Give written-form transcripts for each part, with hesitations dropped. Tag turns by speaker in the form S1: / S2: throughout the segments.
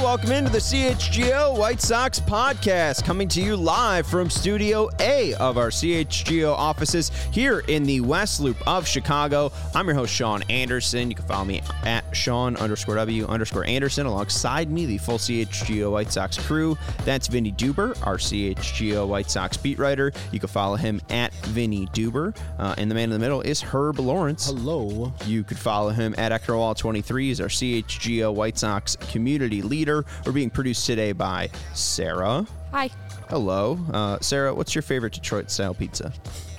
S1: welcome into the CHGO White Sox podcast, coming to you live from Studio A of our CHGO offices here in the West Loop of Chicago. I'm your host, Sean Anderson. You can follow me at Sean_W_Anderson. Alongside me, the full CHGO White Sox crew. That's Vinny Duber, our CHGO White Sox beat writer. You can follow him at Vinny Duber. And the man in the middle is Herb Lawrence.
S2: Hello.
S1: You could follow him at Ectorwall23. He's our CHGO White Sox community leader. We're being produced today by Sarah.
S3: Hi.
S1: Hello. Sarah, what's your favorite Detroit-style pizza?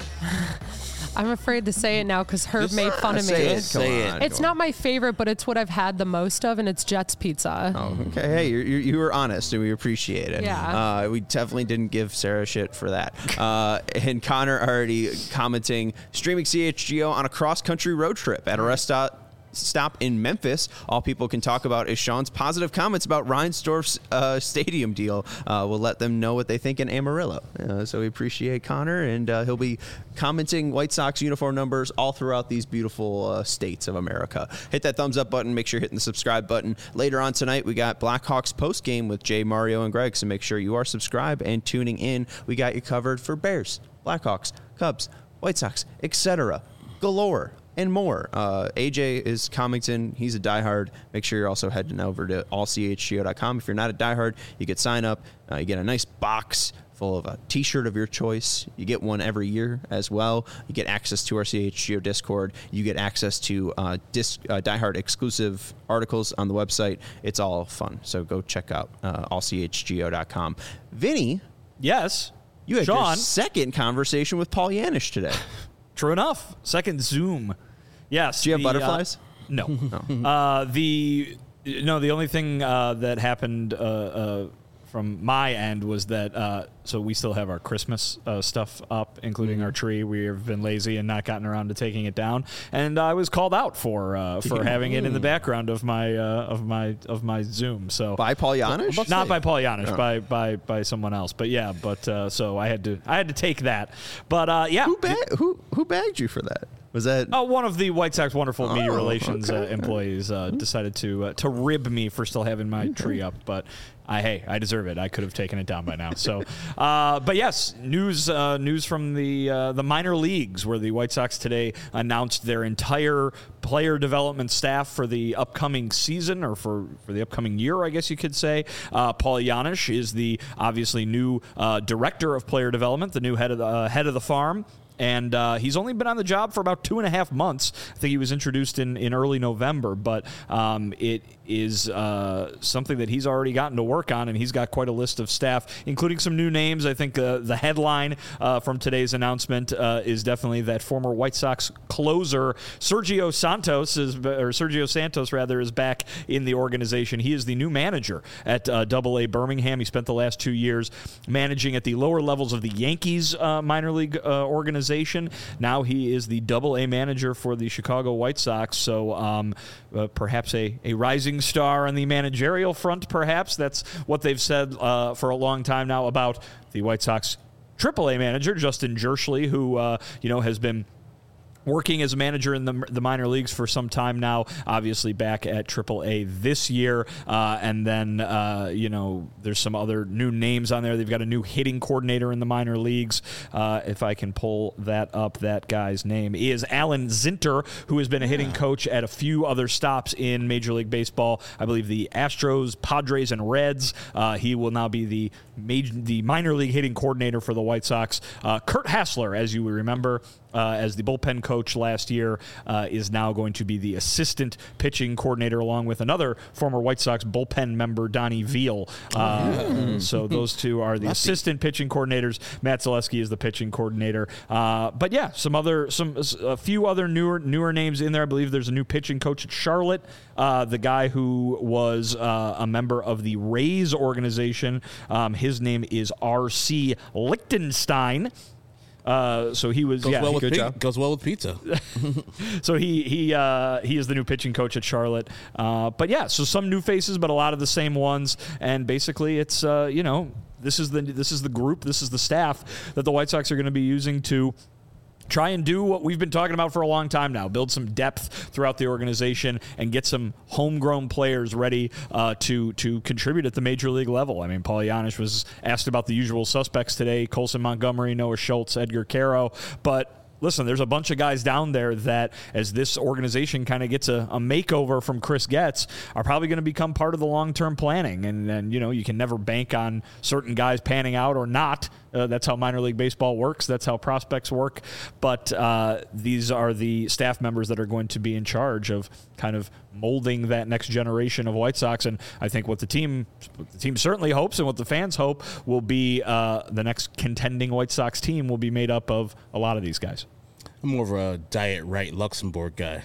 S3: I'm afraid to say it now because Herb made fun of me.
S1: Say it.
S3: It's not my favorite, but it's what I've had the most of, and it's Jets Pizza.
S1: Oh, okay. Hey, you were honest, and we appreciate it.
S3: Yeah.
S1: We definitely didn't give Sarah shit for that. And Connor already commenting, streaming CHGO on a cross-country road trip at a rest stop in Memphis. All people can talk about is Sean's positive comments about Reinsdorf's stadium deal. We'll let them know what they think in Amarillo. So we appreciate Connor, and he'll be commenting White Sox uniform numbers all throughout these beautiful states of America. Hit that thumbs up button. Make sure you're hitting the subscribe button. Later on tonight, we got Blackhawks post game with Jay, Mario, and Greg. So make sure you are subscribed and tuning in. We got you covered for Bears, Blackhawks, Cubs, White Sox, etc. galore. And more. AJ is commenting. He's a diehard. Make sure you're also heading over to allchgo.com. If you're not a diehard, you could sign up. You get a nice box full of a t-shirt of your choice. You get one every year as well. You get access to our CHGO Discord. You get access to diehard exclusive articles on the website. It's all fun. So go check out allchgo.com. Vinny.
S4: Yes.
S1: You had
S4: Sean.
S1: your second conversation with Paul Yanish today.
S4: True enough. Second Zoom. Yes.
S1: Do you have butterflies?
S4: No. The only thing that happened from my end was that so we still have our Christmas stuff up, including our tree. We have been lazy and not gotten around to taking it down, and I was called out for having it in the background of my Zoom. So
S1: by Paul Yanish?
S4: Not by Paul Yanish, by someone else. But yeah, so I had to take that. But yeah,
S1: who bagged you for that? Was that
S4: one of the White Sox wonderful media relations employees decided to rib me for still having my tree up, but I deserve it. I could have taken it down by now. So, but yes, news from the minor leagues, where the White Sox today announced their entire player development staff for the upcoming season, or for the upcoming year, I guess you could say. Paul Yanish is the obviously new director of player development, the new head of the farm. And he's only been on the job for about 2.5 months. I think he was introduced in early November, but it is something that he's already gotten to work on, and he's got quite a list of staff, including some new names. I think the headline from today's announcement is definitely that former White Sox closer Sergio Santos is back in the organization. He is the new manager at AA Birmingham. He spent the last 2 years managing at the lower levels of the Yankees minor league organization. Now he is the AA manager for the Chicago White Sox, so perhaps a rising star on the managerial front, perhaps. That's what they've said for a long time now about the White Sox AAA manager, Justin Jerschley, who has been working as a manager in the minor leagues for some time now, obviously back at AAA this year. And then, there's some other new names on there. They've got a new hitting coordinator in the minor leagues. If I can pull that up, that guy's name is Alan Zinter, who has been a hitting coach at a few other stops in Major League Baseball. I believe the Astros, Padres, and Reds. He will now be the minor league hitting coordinator for the White Sox. Kurt Hassler, as you remember, as the bullpen coach last year, is now going to be the assistant pitching coordinator, along with another former White Sox bullpen member, Donnie Veal. So those two are the assistant pitching coordinators. Matt Zaleski is the pitching coordinator. But yeah, a few other newer names in there. I believe there's a new pitching coach at Charlotte. The guy who was a member of the Rays organization. His name is R.C. Lichtenstein. So he was
S2: goes well with pizza.
S4: So he is the new pitching coach at Charlotte. But yeah, so some new faces, but a lot of the same ones. And basically, it's this is the group, this is the staff that the White Sox are going to be using to try and do what we've been talking about for a long time now, build some depth throughout the organization and get some homegrown players ready to contribute at the major league level. I mean, Paul Janish was asked about the usual suspects today, Colson Montgomery, Noah Schultz, Edgar Caro, but listen, there's a bunch of guys down there that, as this organization kind of gets a makeover from Chris Getz, are probably going to become part of the long-term planning. And you can never bank on certain guys panning out or not. That's how minor league baseball works. That's how prospects work. But these are the staff members that are going to be in charge of kind of molding that next generation of White Sox. And I think what the team certainly hopes and what the fans hope will be the next contending White Sox team will be made up of a lot of these guys.
S2: I'm more of a Diet Right Luxembourg guy.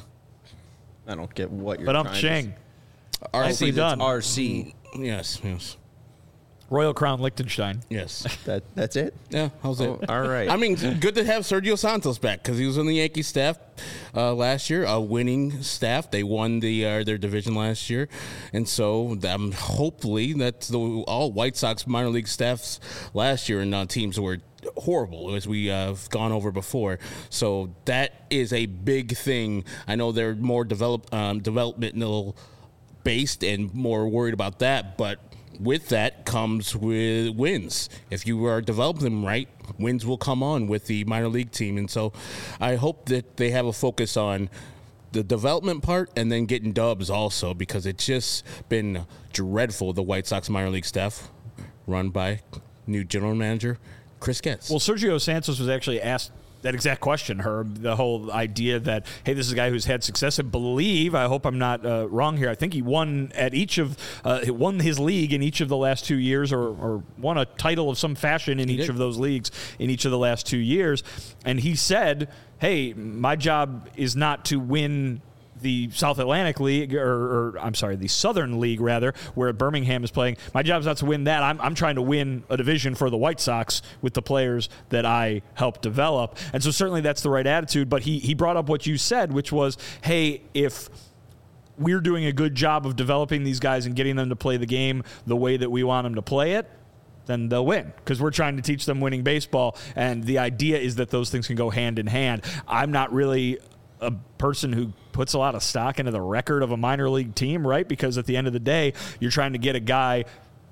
S1: I don't get what you're
S4: But I'm
S1: trying
S4: Chang.
S1: to
S4: Nicely done.
S1: RC.
S2: Yes.
S4: Royal Crown Liechtenstein.
S2: Yes.
S1: That's it?
S2: Yeah, how's it?
S1: All right.
S2: I mean, good to have Sergio Santos back because he was on the Yankee staff last year, a winning staff. They won their division last year, and so hopefully that's all White Sox minor league staffs last year and teams were horrible, as we have gone over before. So that is a big thing. I know they're more developmental based and more worried about that, but with that comes with wins. If you are developing them right, wins will come on with the minor league team. And so I hope that they have a focus on the development part and then getting dubs also, because it's just been dreadful, the White Sox minor league staff run by new general manager Chris Getz.
S4: Well, Sergio Santos was actually asked that exact question, Herb, the whole idea that, hey, this is a guy who's had success. I hope I'm not wrong here, I think he won won his league in each of the last 2 years, or won a title of some fashion in each of those leagues in each of the last 2 years. And he said, hey, my job is not to win the South Atlantic League, or I'm sorry, the Southern League, rather, where Birmingham is playing. My job's not to win that. I'm trying to win a division for the White Sox with the players that I helped develop. And so certainly that's the right attitude. But he brought up what you said, which was, hey, if we're doing a good job of developing these guys and getting them to play the game the way that we want them to play it, then they'll win, because we're trying to teach them winning baseball. And the idea is that those things can go hand in hand. I'm not really a person who puts a lot of stock into the record of a minor league team, right? Because at the end of the day, you're trying to get a guy,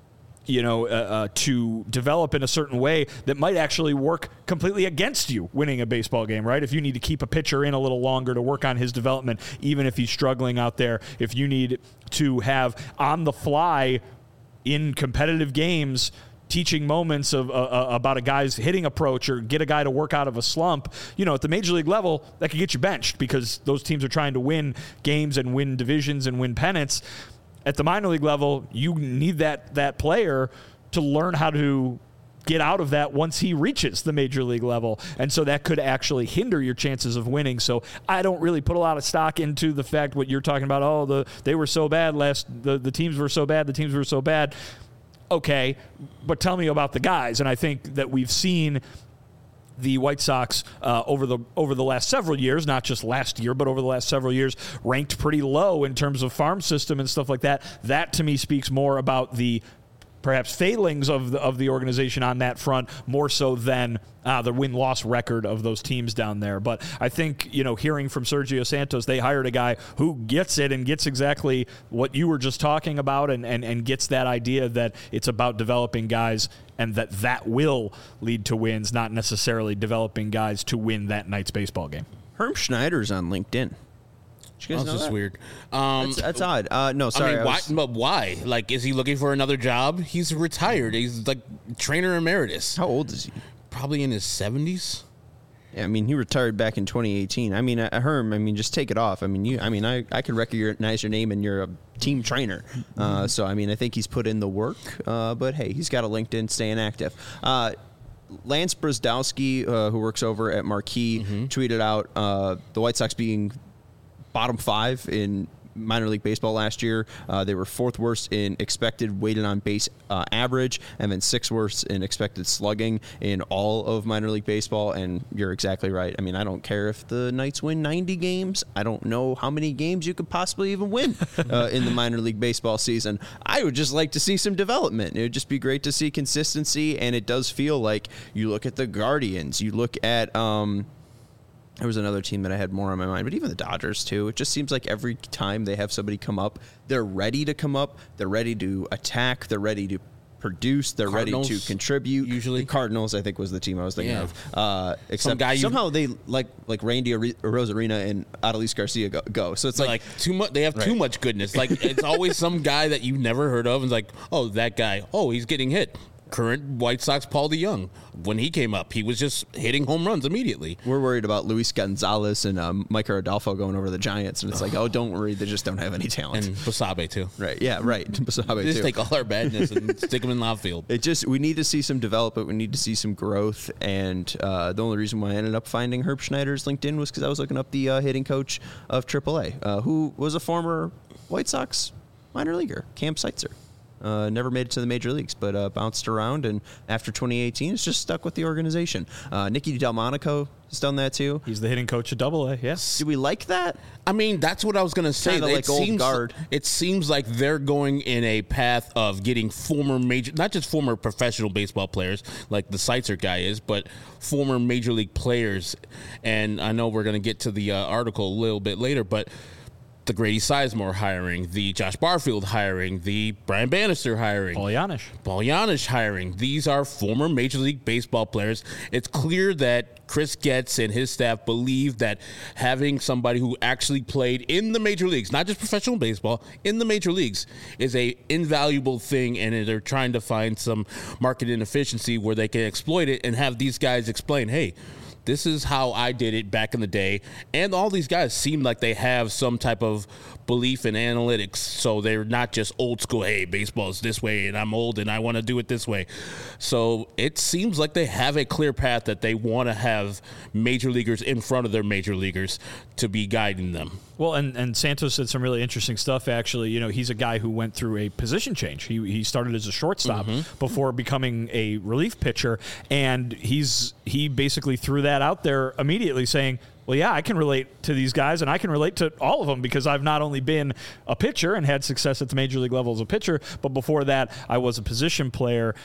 S4: to develop in a certain way that might actually work completely against you winning a baseball game, right? If you need to keep a pitcher in a little longer to work on his development, even if he's struggling out there, if you need to have on the fly in competitive games teaching moments of about a guy's hitting approach, or get a guy to work out of a slump, at the major league level, that could get you benched, because those teams are trying to win games and win divisions and win pennants. At the minor league level, you need that player to learn how to get out of that once he reaches the major league level. And so that could actually hinder your chances of winning. So I don't really put a lot of stock into the fact what you're talking about. They were so bad the teams were so bad. Okay, but tell me about the guys. And I think that we've seen the White Sox over the last several years, not just last year, but over the last several years, ranked pretty low in terms of farm system and stuff like that. That to me speaks more about the perhaps failings of the organization on that front, more so than the win-loss record of those teams down there. But I think, hearing from Sergio Santos, they hired a guy who gets it and gets exactly what you were just talking about, and gets that idea that it's about developing guys and that will lead to wins, not necessarily developing guys to win that night's baseball game.
S1: Herm Schneider's on LinkedIn.
S2: That's just weird.
S1: That's odd. No, sorry.
S2: But why? Like, is he looking for another job? He's retired. He's like trainer emeritus.
S1: How old is he?
S2: Probably in his 70s.
S1: Yeah, I mean, he retired back in 2018. I mean, Herm, just take it off. I can recognize your name, and you're a team trainer. So, I think he's put in the work. But hey, he's got a LinkedIn, staying active. Lance Brzdowski, who works over at Marquee, tweeted out the White Sox being bottom 5 in minor league baseball last year. They were 4th worst in expected weighted on base average, and then 6th worst in expected slugging in all of minor league baseball. And you're exactly right. I don't care if the Knights win 90 games. I don't know how many games you could possibly even win in the minor league baseball season. I would just like to see some development. It would just be great to see consistency, and it does feel like you look at the Guardians, you look at There was another team that I had more on my mind, but even the Dodgers too. It just seems like every time they have somebody come up, they're ready to come up, they're ready to attack, they're ready to produce, they're
S2: Cardinals,
S1: ready to contribute.
S2: usually.
S1: The Cardinals, I think, was the team I was thinking
S2: Yeah.
S1: of. Except somehow they like Randy Rosarina and Adolis Garcia go. So it's
S2: like too much. They have too much goodness. Like it's always some guy that you've never heard of, and it's like, oh, that guy. Oh, he's getting hit. Current White Sox Paul DeJong. When he came up, he was just hitting home runs immediately.
S1: We're worried about Luis Gonzalez and Micah Rodolfo going over to the Giants, and it's like, oh, don't worry, they just don't have any talent.
S2: And Basabe too.
S1: Right? Yeah, right. Basabe
S2: Just
S1: too.
S2: take all our badness and stick them in left field.
S1: We need to see some development. We need to see some growth. And the only reason why I ended up finding Herb Schneider's LinkedIn was because I was looking up the hitting coach of AAA, who was a former White Sox minor leaguer, Cam Seitzer. Never made it to the major leagues, but bounced around, and after 2018, it's just stuck with the organization. Nicky Delmonico has done that too.
S4: He's the hitting coach of AA. Yes.
S1: Do we like that?
S2: I mean, that's what I was going to say.
S1: Kinda like old guard.
S2: It seems like they're going in a path of getting former major, not just former professional baseball players like the Seitzer guy is, but former major league players. And I know we're going to get to the article a little bit later, but the Grady Sizemore hiring, the Josh Barfield hiring, the Brian Bannister hiring,
S4: Paul Janisch
S2: hiring. These are former Major League Baseball players. It's clear that Chris Getz and his staff believe that having somebody who actually played in the major leagues, not just professional baseball, in the major leagues, is a invaluable thing, and they're trying to find some market inefficiency where they can exploit it and have these guys explain, hey, this is how I did it back in the day. And all these guys seem like they have some type of belief in analytics. So they're not just old school, hey, baseball is this way and I'm old and I want to do it this way. So it seems like they have a clear path that they want to have major leaguers in front of their major leaguers to be guiding them.
S4: Well, and Santos said some really interesting stuff, actually. You know, he's a guy who went through a position change. He started as a shortstop before becoming a relief pitcher, and he basically threw that out there immediately, saying, well, yeah, I can relate to these guys, and I can relate to all of them because I've not only been a pitcher and had success at the major league level as a pitcher, but before that, I was a position player.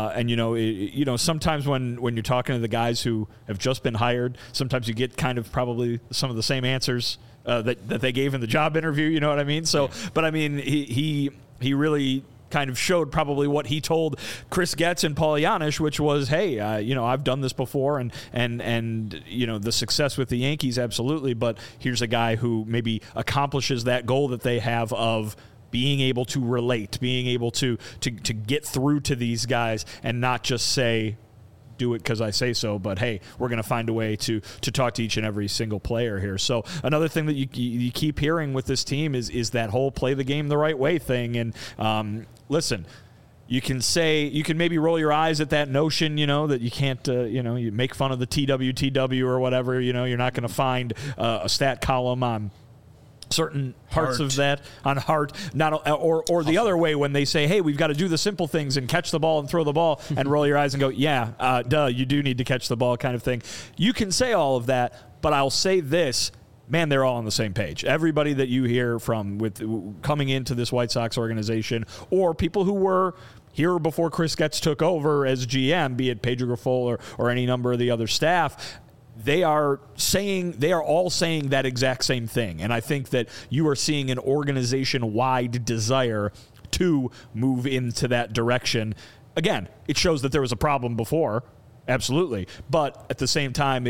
S4: And sometimes when you're talking to the guys who have just been hired, sometimes you get kind of probably some of the same answers that they gave in the job interview. You know what I mean? So, but I mean, he really kind of showed probably what he told Chris Getz and Paul Janisch, which was, hey, I've done this before, and the success with the Yankees, absolutely, but here's a guy who maybe accomplishes that goal that they have of being able to relate, being able to get through to these guys and not just say, do it because I say so, but hey, we're going to find a way to talk to each and every single player here. So another thing that you keep hearing with this team is that whole play the game the right way thing. And listen, you can maybe roll your eyes at that notion, that you can't, you make fun of the TWTW or whatever, you're not going to find a stat column on certain parts of that on heart, or the other way when they say, hey, we've got to do the simple things and catch the ball and throw the ball and roll your eyes and go, yeah, duh, you do need to catch the ball kind of thing. You can say all of that, but I'll say this, man, they're all on the same page. Everybody that you hear from with coming into this White Sox organization, or people who were here before Chris Getz took over as GM, be it Pedro Grifol or any number of the other staff, they are all saying that exact same thing. And I think that you are seeing an organization-wide desire to move into that direction. Again, it shows that there was a problem before, absolutely. But at the same time,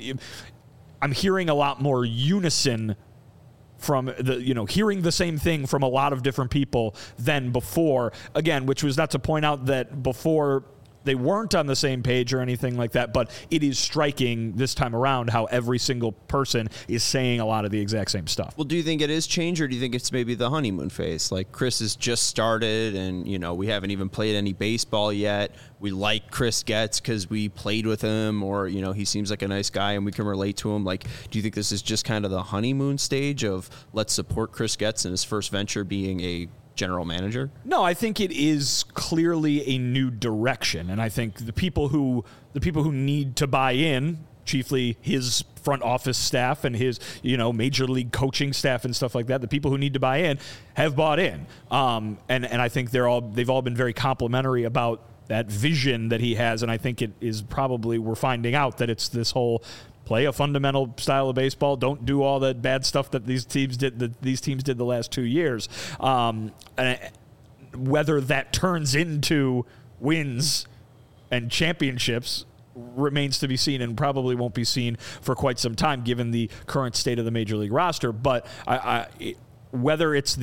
S4: I'm hearing a lot more unison from hearing the same thing from a lot of different people than before. Again, which was not to point out that before they weren't on the same page or anything like that, but it is striking this time around how every single person is saying a lot of the exact same stuff.
S1: Well, do you think it is change, or do you think it's maybe the honeymoon phase? Like, Chris has just started, and, we haven't even played any baseball yet. We like Chris Getz because we played with him, or, he seems like a nice guy and we can relate to him. Like, do you think this is just kind of the honeymoon stage of let's support Chris Getz in his first venture being a general manager?
S4: No, I think it is clearly a new direction, and I think the people who need to buy in, chiefly his front office staff and his major league coaching staff and stuff like that, the people who need to buy in have bought in, and I think they've all been very complimentary about that vision that he has, and I think it is probably, we're finding out that it's this whole Play a fundamental style of baseball. Don't do all that bad stuff that these teams did the last 2 years. And whether that turns into wins and championships remains to be seen, and probably won't be seen for quite some time given the current state of the Major League roster. But whether it's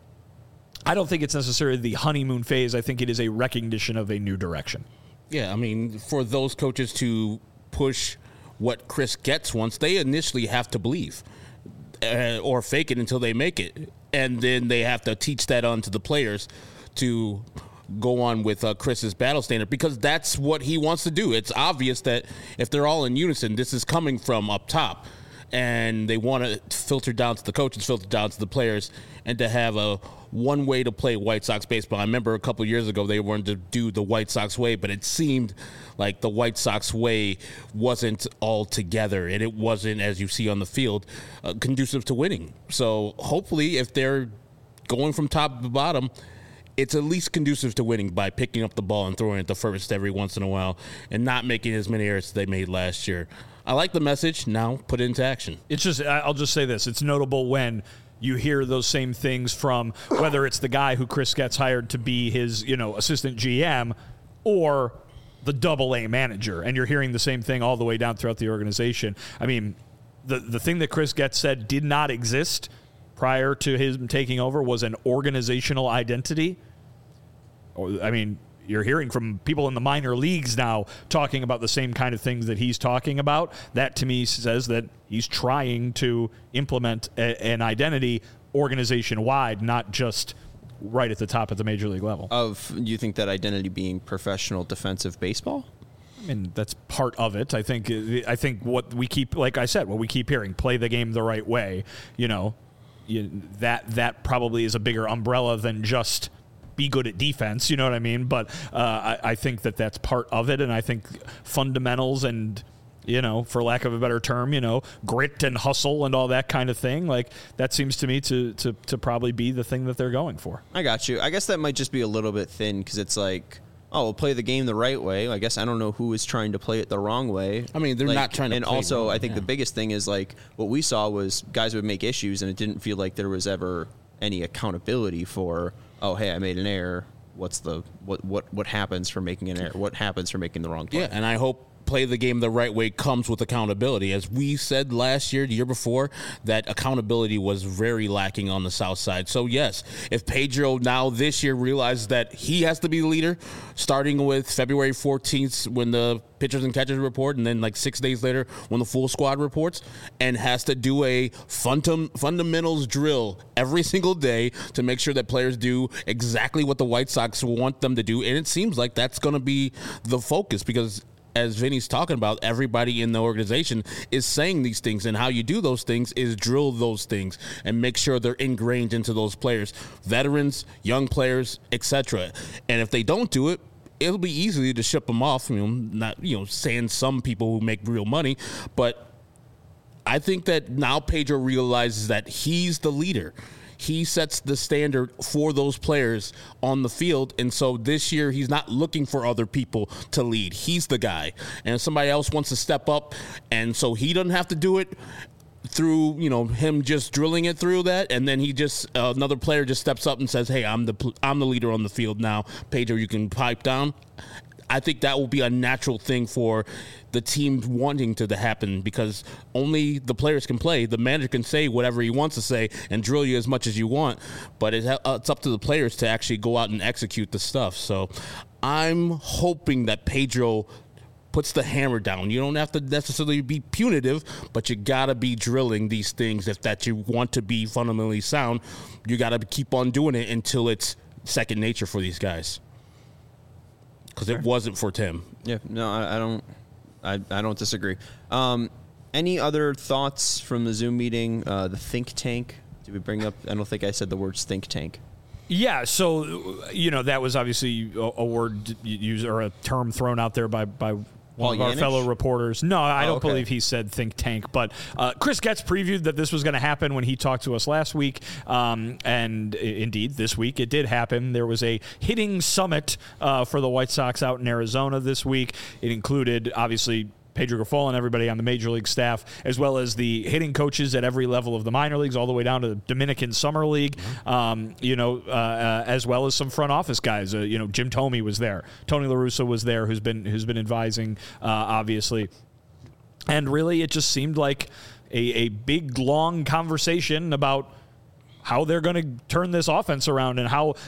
S4: I don't think it's necessarily the honeymoon phase. I think it is a recognition of a new direction.
S2: Yeah, I mean, for those coaches to push what Chris Getz wants, they initially have to believe or fake it until they make it. And then they have to teach that on to the players to go on with Chris's battle standard, because that's what he wants to do. It's obvious that if they're all in unison, this is coming from up top. And they want to filter down to the coaches, filter down to the players, and to have a one way to play White Sox baseball. I remember a couple of years ago they wanted to do the White Sox way, but it seemed like the White Sox way wasn't all together, and it wasn't, as you see on the field, conducive to winning. So hopefully if they're going from top to bottom, it's at least conducive to winning by picking up the ball and throwing it to first every once in a while and not making as many errors as they made last year. I like the message. Now put it into action.
S4: It's just, I'll just say this. It's notable when you hear those same things from whether it's the guy who Chris gets hired to be his, assistant GM or the Double-A manager. And you're hearing the same thing all the way down throughout the organization. I mean, the thing that Chris Getz said did not exist prior to him taking over was an organizational identity. I mean, you're hearing from people in the minor leagues now talking about the same kind of things that he's talking about. That, to me, says that he's trying to implement an identity organization-wide, not just right at the top at the major league level.
S1: You think that identity being professional defensive baseball?
S4: I mean, that's part of it. I think what we keep, like I said, what we keep hearing, play the game the right way, that probably is a bigger umbrella than just be good at defense, you know what I mean? But I think that's part of it, and I think fundamentals and, for lack of a better term, grit and hustle and all that kind of thing, like that seems to me to probably be the thing that they're going for.
S1: I got you. I guess that might just be a little bit thin because it's like, we'll play the game the right way. I guess I don't know who is trying to play it the wrong way.
S2: I mean, they're not trying to
S1: and
S2: play
S1: also,
S2: wrong,
S1: I think the biggest thing is like what we saw was guys would make issues, and it didn't feel like there was ever any accountability for, oh, hey, I made an error. What's what happens for making an error? What happens for making the wrong play?
S2: Yeah, and I hope play the game the right way comes with accountability. As we said last year, the year before, that accountability was very lacking on the South Side. So, yes, if Pedro now this year realizes that he has to be the leader, starting with February 14th when the pitchers and catchers report, and then like 6 days later when the full squad reports, and has to do a fundamentals drill every single day to make sure that players do exactly what the White Sox want them to do. And it seems like that's going to be the focus because, as Vinny's talking about, everybody in the organization is saying these things, and how you do those things is drill those things and make sure they're ingrained into those players, veterans, young players, etc. And if they don't do it, it'll be easy to ship them off. Not saying some people who make real money, but I think that now Pedro realizes that he's the leader. He sets the standard for those players on the field. And so this year, he's not looking for other people to lead. He's the guy. And if somebody else wants to step up, and so he doesn't have to do it through, him just drilling it through that, and then he just, another player just steps up and says, hey, I'm the leader on the field now. Pedro, you can pipe down. I think that will be a natural thing for the team wanting to happen, because only the players can play. The manager can say whatever he wants to say and drill you as much as you want, but it's up to the players to actually go out and execute the stuff. So I'm hoping that Pedro puts the hammer down. You don't have to necessarily be punitive, but you got to be drilling these things. If that you want to be fundamentally sound, you got to keep on doing it until it's second nature for these guys. Because it wasn't for Tim.
S1: Yeah, no, I don't disagree. Any other thoughts from the Zoom meeting? The think tank. Did we bring up? I don't think I said the words think tank.
S4: Yeah, so that was obviously a word used or a term thrown out there by one of our fellow reporters. No, I don't believe he said think tank, but Chris Getz previewed that this was going to happen when he talked to us last week, and indeed, this week it did happen. There was a hitting summit for the White Sox out in Arizona this week. It included, obviously, Pedro Grifol and everybody on the major league staff, as well as the hitting coaches at every level of the minor leagues, all the way down to the Dominican Summer League, as well as some front office guys. Jim Thome was there. Tony La Russa was there, who's been advising, obviously. And really, it just seemed like a big, long conversation about how they're going to turn this offense around and how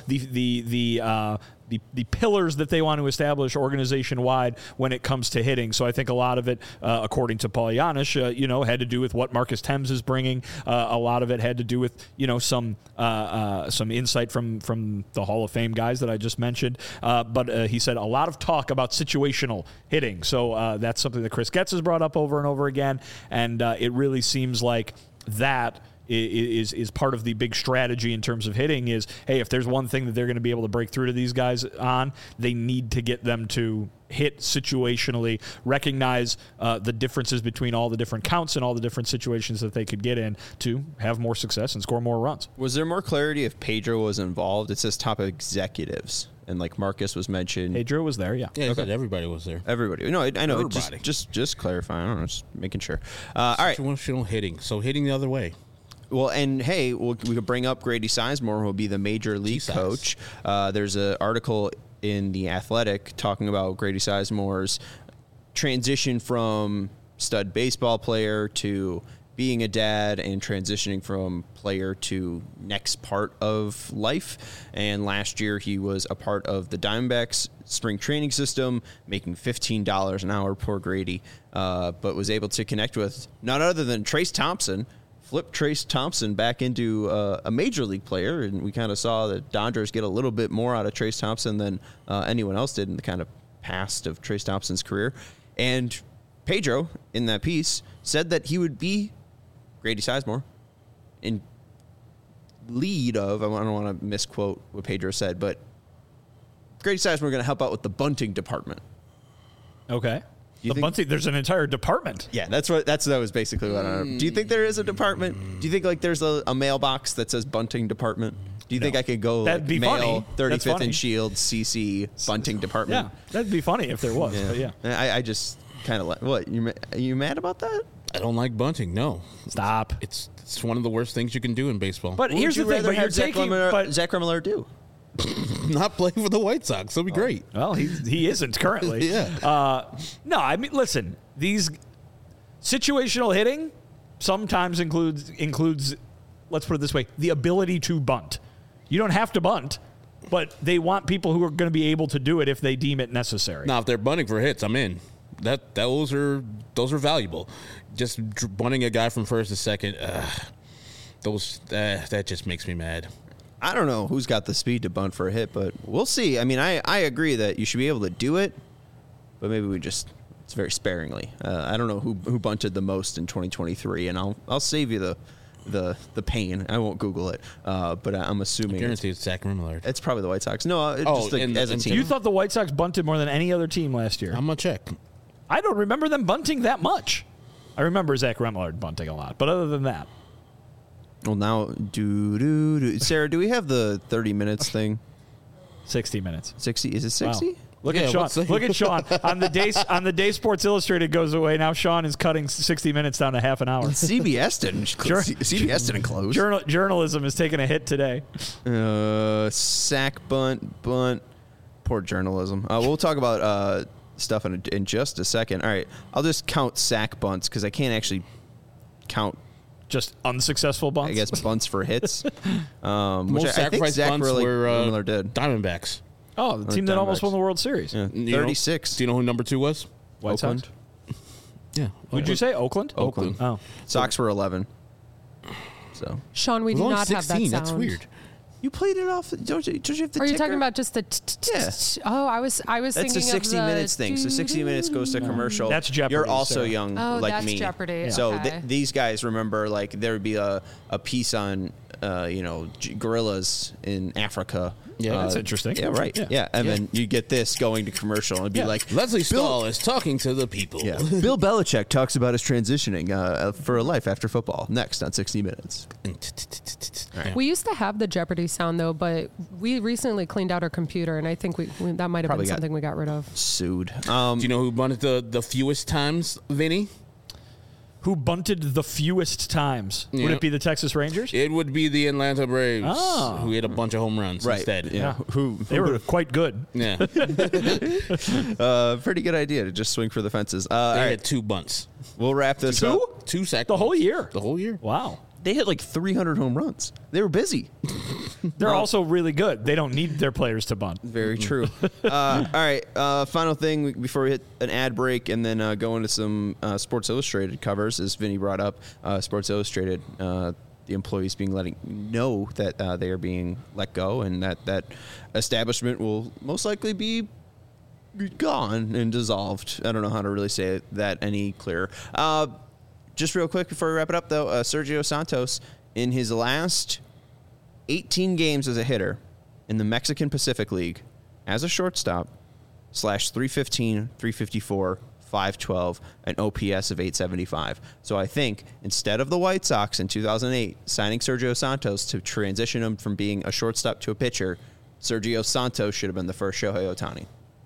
S4: the pillars that they want to establish organization-wide when it comes to hitting. So I think a lot of it, according to Paul Janisch, had to do with what Marcus Thames is bringing. A lot of it had to do with, some insight from the Hall of Fame guys that I just mentioned. But he said a lot of talk about situational hitting. So that's something that Chris Getz has brought up over and over again. And it really seems like that is part of the big strategy in terms of hitting is, hey, if there's one thing that they're going to be able to break through to these guys on, they need to get them to hit situationally, recognize the differences between all the different counts and all the different situations that they could get in to have more success and score more runs.
S1: Was there more clarity if Pedro was involved? It says top executives, and like Marcus was mentioned.
S4: Pedro was there, yeah.
S2: Yeah, okay. Everybody was there.
S1: Everybody. No, I know.
S2: Everybody.
S1: Just clarifying. I don't know, just making sure. All right.
S2: Situational hitting. So hitting the other way.
S1: Well, and hey, we could bring up Grady Sizemore, who will be the major league coach. There's an article in The Athletic talking about Grady Sizemore's transition from stud baseball player to being a dad and transitioning from player to next part of life. And last year he was a part of the Diamondbacks spring training system, making $15 an hour, poor Grady, but was able to connect with none other than Trace Thompson, flip Trace Thompson back into a major league player, and we kind of saw the Dodgers get a little bit more out of Trace Thompson than anyone else did in the kind of past of Trace Thompson's career. And Pedro, in that piece, said that he would be Grady Sizemore in lead of, I don't want to misquote what Pedro said, but Grady Sizemore going to help out with the bunting department.
S4: Okay. Bunting, there's an entire department.
S1: Yeah, that was basically what I. Do you think there is a department? Do you think like there's a mailbox that says bunting department? Do you think I could go
S4: that'd be
S1: mail
S4: funny.
S1: 35th and Shield CC bunting department?
S4: Yeah, that'd be funny if there was.
S1: Yeah.
S4: But yeah.
S1: I just kind of what you mad about that?
S2: I don't like bunting. No,
S4: stop.
S2: It's one of the worst things you can do in baseball.
S4: But here's the thing. But you're taking
S1: Zach Remillard do.
S2: Not play for the White Sox. That'll be great.
S4: Well, he isn't currently.
S2: Yeah.
S4: No, I mean, listen. These situational hitting sometimes includes. Let's put it this way: the ability to bunt. You don't have to bunt, but they want people who are going to be able to do it if they deem it necessary.
S2: Now, if they're bunting for hits, I'm in. Those are valuable. Just bunting a guy from first to second, that just makes me mad.
S1: I don't know who's got the speed to bunt for a hit, but we'll see. I mean, I agree that you should be able to do it, but maybe it's very sparingly. I don't know who bunted the most in 2023, and I'll save you the pain. I won't Google it, but I'm assuming.
S2: I guarantee it's Zach Remillard.
S1: It's probably the White Sox. No, as a team.
S4: You thought the White Sox bunted more than any other team last year?
S2: I'm gonna check.
S4: I don't remember them bunting that much. I remember Zach Remillard bunting a lot, but other than that.
S1: Well, now, Sarah, do we have the 30 minutes thing?
S4: 60 minutes.
S1: 60? Is it 60?
S4: Wow. Look at Sean. Look at Sean. On the day Sports Illustrated goes away, now Sean is cutting 60 minutes down to half an hour.
S1: CBS didn't close.
S4: Journalism is taking a hit today.
S1: Sack bunt. Poor journalism. We'll talk about stuff in just a second. All right. I'll just count sack bunts because I can't actually count
S4: just unsuccessful bunts.
S1: I guess bunts for hits.
S2: Most sacrifice bunts were
S1: did.
S2: Diamondbacks.
S4: Oh, the team that almost won the World Series.
S1: Yeah. 36.
S2: Do you know who number 2 was?
S1: Oakland.
S2: Yeah.
S4: Who'd you say? Oakland?
S1: Oakland.
S4: Oh.
S1: Sox were 11. So
S3: Sean, we do not have that sound.
S2: That's weird.
S1: You played it off. Don't you have the
S3: Are you
S1: ticker?
S3: talking about just the Oh, I was
S1: That's
S3: thinking
S1: a 60
S3: of the
S1: minutes thing. So 60 minutes goes to commercial.
S4: That's Jeopardy.
S1: You're also young like
S3: that's
S1: me.
S3: Jeopardy. Yeah.
S1: So
S3: Okay.
S1: these guys remember like there would be a piece on gorillas in Africa.
S4: Yeah, that's interesting.
S1: Yeah, right. Yeah, and then you get this going to commercial and it'd be like
S2: Leslie Stahl is talking to the people.
S1: Yeah. Bill Belichick talks about his transitioning for a life after football. Next on 60 Minutes.
S3: We used to have the Jeopardy sound, though, but we recently cleaned out our computer, and I think that might have
S1: Probably
S3: been
S1: got
S3: something we got rid of.
S1: Sued.
S2: Do you know who won it the fewest times, Vinny?
S4: Who bunted the fewest times? Would
S2: Yeah.
S4: it be the Texas Rangers?
S2: It would be the Atlanta Braves,
S4: Oh.
S2: who hit a bunch of home runs instead.
S1: Yeah.
S4: They were quite good.
S2: Yeah.
S1: Pretty good idea to just swing for the fences. All
S2: They
S1: right,
S2: had 2 bunts.
S1: we'll wrap this up.
S2: 2 sack
S4: The whole
S2: bunts.
S4: year?
S2: The whole year.
S4: Wow.
S1: They hit like 300 home runs. They were busy.
S4: They're also really good. They don't need their players to bunt.
S1: Very true. All right. Final thing before we hit an ad break and then go into some Sports Illustrated covers, as Vinny brought up. Sports Illustrated, the employees being letting know that they are being let go and that establishment will most likely be gone and dissolved. I don't know how to really say that any clearer. Just real quick before we wrap it up, though, Sergio Santos, in his last 18 games as a hitter in the Mexican Pacific League, as a shortstop, /315, 354, 512, an OPS of 875. So I think instead of the White Sox in 2008 signing Sergio Santos to transition him from being a shortstop to a pitcher, Sergio Santos should have been the first Shohei Ohtani.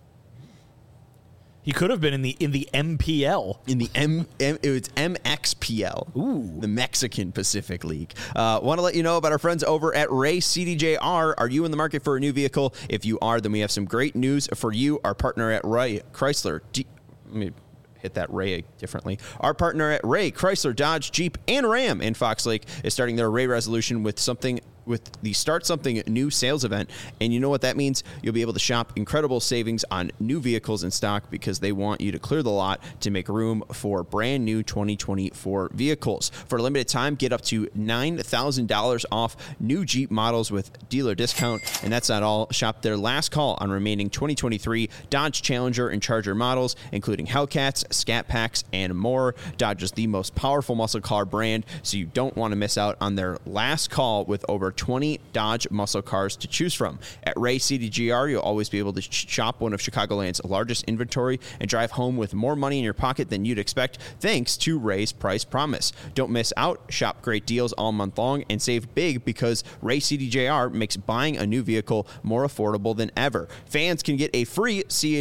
S4: He could have been in the MPL.
S1: In the it was MXPL, the Mexican Pacific League. Want to let you know about our friends over at Ray CDJR. Are you in the market for a new vehicle? If you are, then we have some great news for you. Our partner at Ray Chrysler. Let me hit that Ray differently. Our partner at Ray Chrysler, Dodge, Jeep, and Ram in Fox Lake is starting their Ray Resolution with the Start Something New sales event. And you know what that means? You'll be able to shop incredible savings on new vehicles in stock because they want you to clear the lot to make room for brand new 2024 vehicles. For a limited time, get up to $9,000 off new Jeep models with dealer discount. And that's not all. Shop their last call on remaining 2023 Dodge Challenger and Charger models, including Hellcats, Scat Packs, and more. Dodge is the most powerful muscle car brand, so you don't want to miss out on their last call with over 20 Dodge muscle cars to choose from. At Ray CDGR, you'll always be able to shop one of Chicagoland's largest inventory and drive home with more money in your pocket than you'd expect, thanks to Ray's Price Promise. Don't miss out. Shop great deals all month long and save big because Ray CDJR makes buying a new vehicle more affordable than ever. Fans can get a free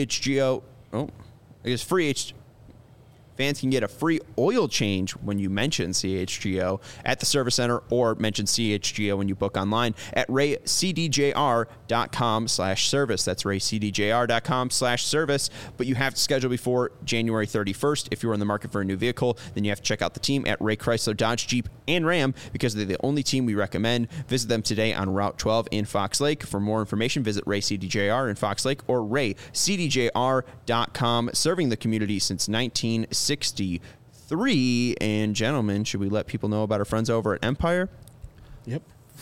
S1: Fans can get a free oil change when you mention CHGO at the service center or mention CHGO when you book online at raycdjr.com/service. That's raycdjr.com/service. But you have to schedule before January 31st. If you're in the market for a new vehicle, then you have to check out the team at Ray Chrysler, Dodge, Jeep, and Ram because they're the only team we recommend. Visit them today on Route 12 in Fox Lake. For more information, visit Ray CDJR in Fox Lake or raycdjr.com. Serving the community since 1963. And gentlemen, should we let people know about our friends over at Empire?
S2: Yep.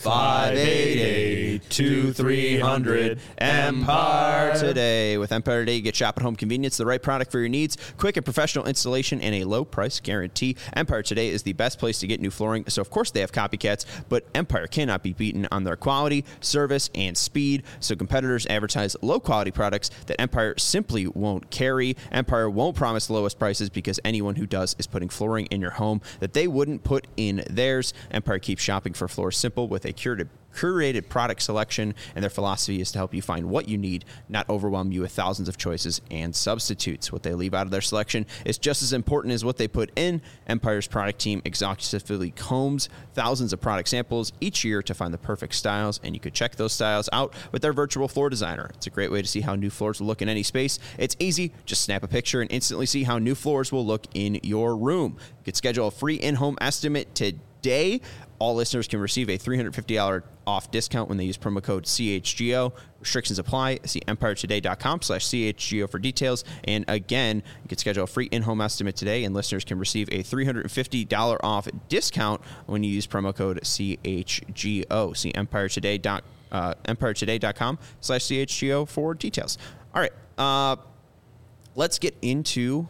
S1: 588-2300 Empire Today. With Empire Today, you get shop at home convenience, the right product for your needs, quick and professional installation, and a low price guarantee. Empire Today is the best place to get new flooring, so of course they have copycats, but Empire cannot be beaten on their quality, service, and speed, so competitors advertise low quality products that Empire simply won't carry. Empire won't promise the lowest prices because anyone who does is putting flooring in your home that they wouldn't put in theirs. Empire keeps shopping for floors simple with a curated product selection, and their philosophy is to help you find what you need, not overwhelm you with thousands of choices and substitutes. What they leave out of their selection is just as important as what they put in. Empire's product team exhaustively combs thousands of product samples each year to find the perfect styles, and you could check those styles out with their virtual floor designer. It's a great way to see how new floors will look in any space. It's easy. Just snap a picture and instantly see how new floors will look in your room. You could schedule a free in-home estimate today. All listeners can receive a $350 off discount when they use promo code CHGO. Restrictions apply. See empiretoday.com/CHGO for details. And again, you can schedule a free in-home estimate today, and listeners can receive a $350 off discount when you use promo code CHGO. See empiretoday.com/CHGO for details. All right. Let's get into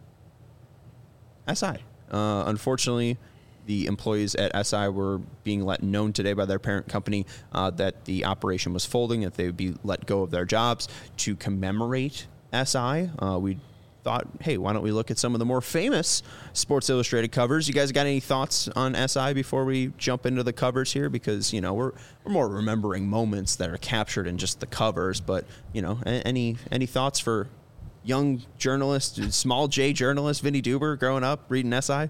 S1: SI. Unfortunately, the employees at SI were being let known today by their parent company that the operation was folding, that they would be let go of their jobs. To commemorate SI, we thought, hey, why don't we look at some of the more famous Sports Illustrated covers? You guys got any thoughts on SI before we jump into the covers here? Because, we're more remembering moments that are captured in just the covers. But, any thoughts for young journalist, small J journalist, Vinny Duber, growing up, reading SI?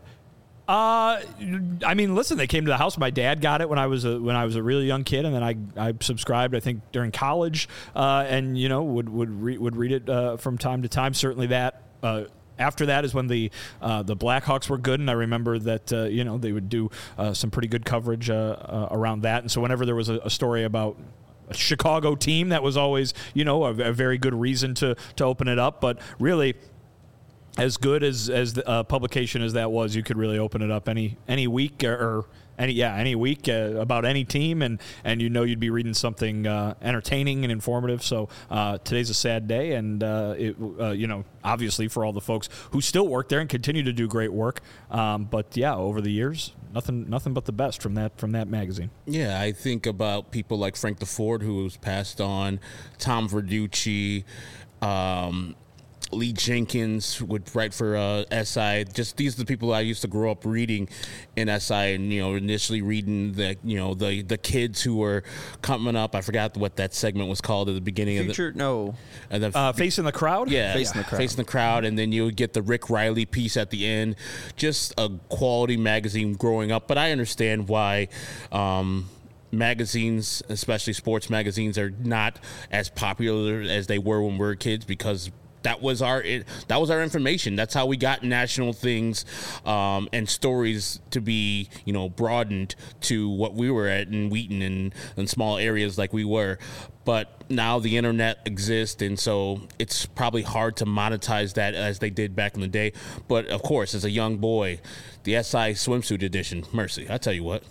S4: Listen, they came to the house. My dad got it when I was a really young kid, and then I subscribed, I think, during college, and would read it from time to time. Certainly that. After that is when the Blackhawks were good, and I remember that they would do some pretty good coverage around that. And so whenever there was a story about a Chicago team, that was always a very good reason to open it up. But really, as good as the publication as that was, you could really open it up any week or any week about any team, and you'd be reading something entertaining and informative. So today's a sad day, and obviously for all the folks who still work there and continue to do great work. But yeah, over the years, nothing but the best from that magazine.
S2: Yeah, I think about people like Frank DeFord, who was passed on, Tom Verducci, Lee Jenkins would write for SI. Just these are the people I used to grow up reading in SI, and initially reading the kids who were coming up. I forgot what that segment was called at the beginning of the
S4: Facing the Crowd.
S2: Yeah, Facing the Crowd, and then you would get the Rick Riley piece at the end. Just a quality magazine growing up, but I understand why. Magazines, especially sports magazines, are not as popular as they were when we were kids, because that was our information. That's how we got national things and stories to be, broadened to what we were at in Wheaton and small areas like we were. But now the internet exists, and so it's probably hard to monetize that as they did back in the day. But of course, as a young boy, the SI swimsuit edition, mercy, I tell you what.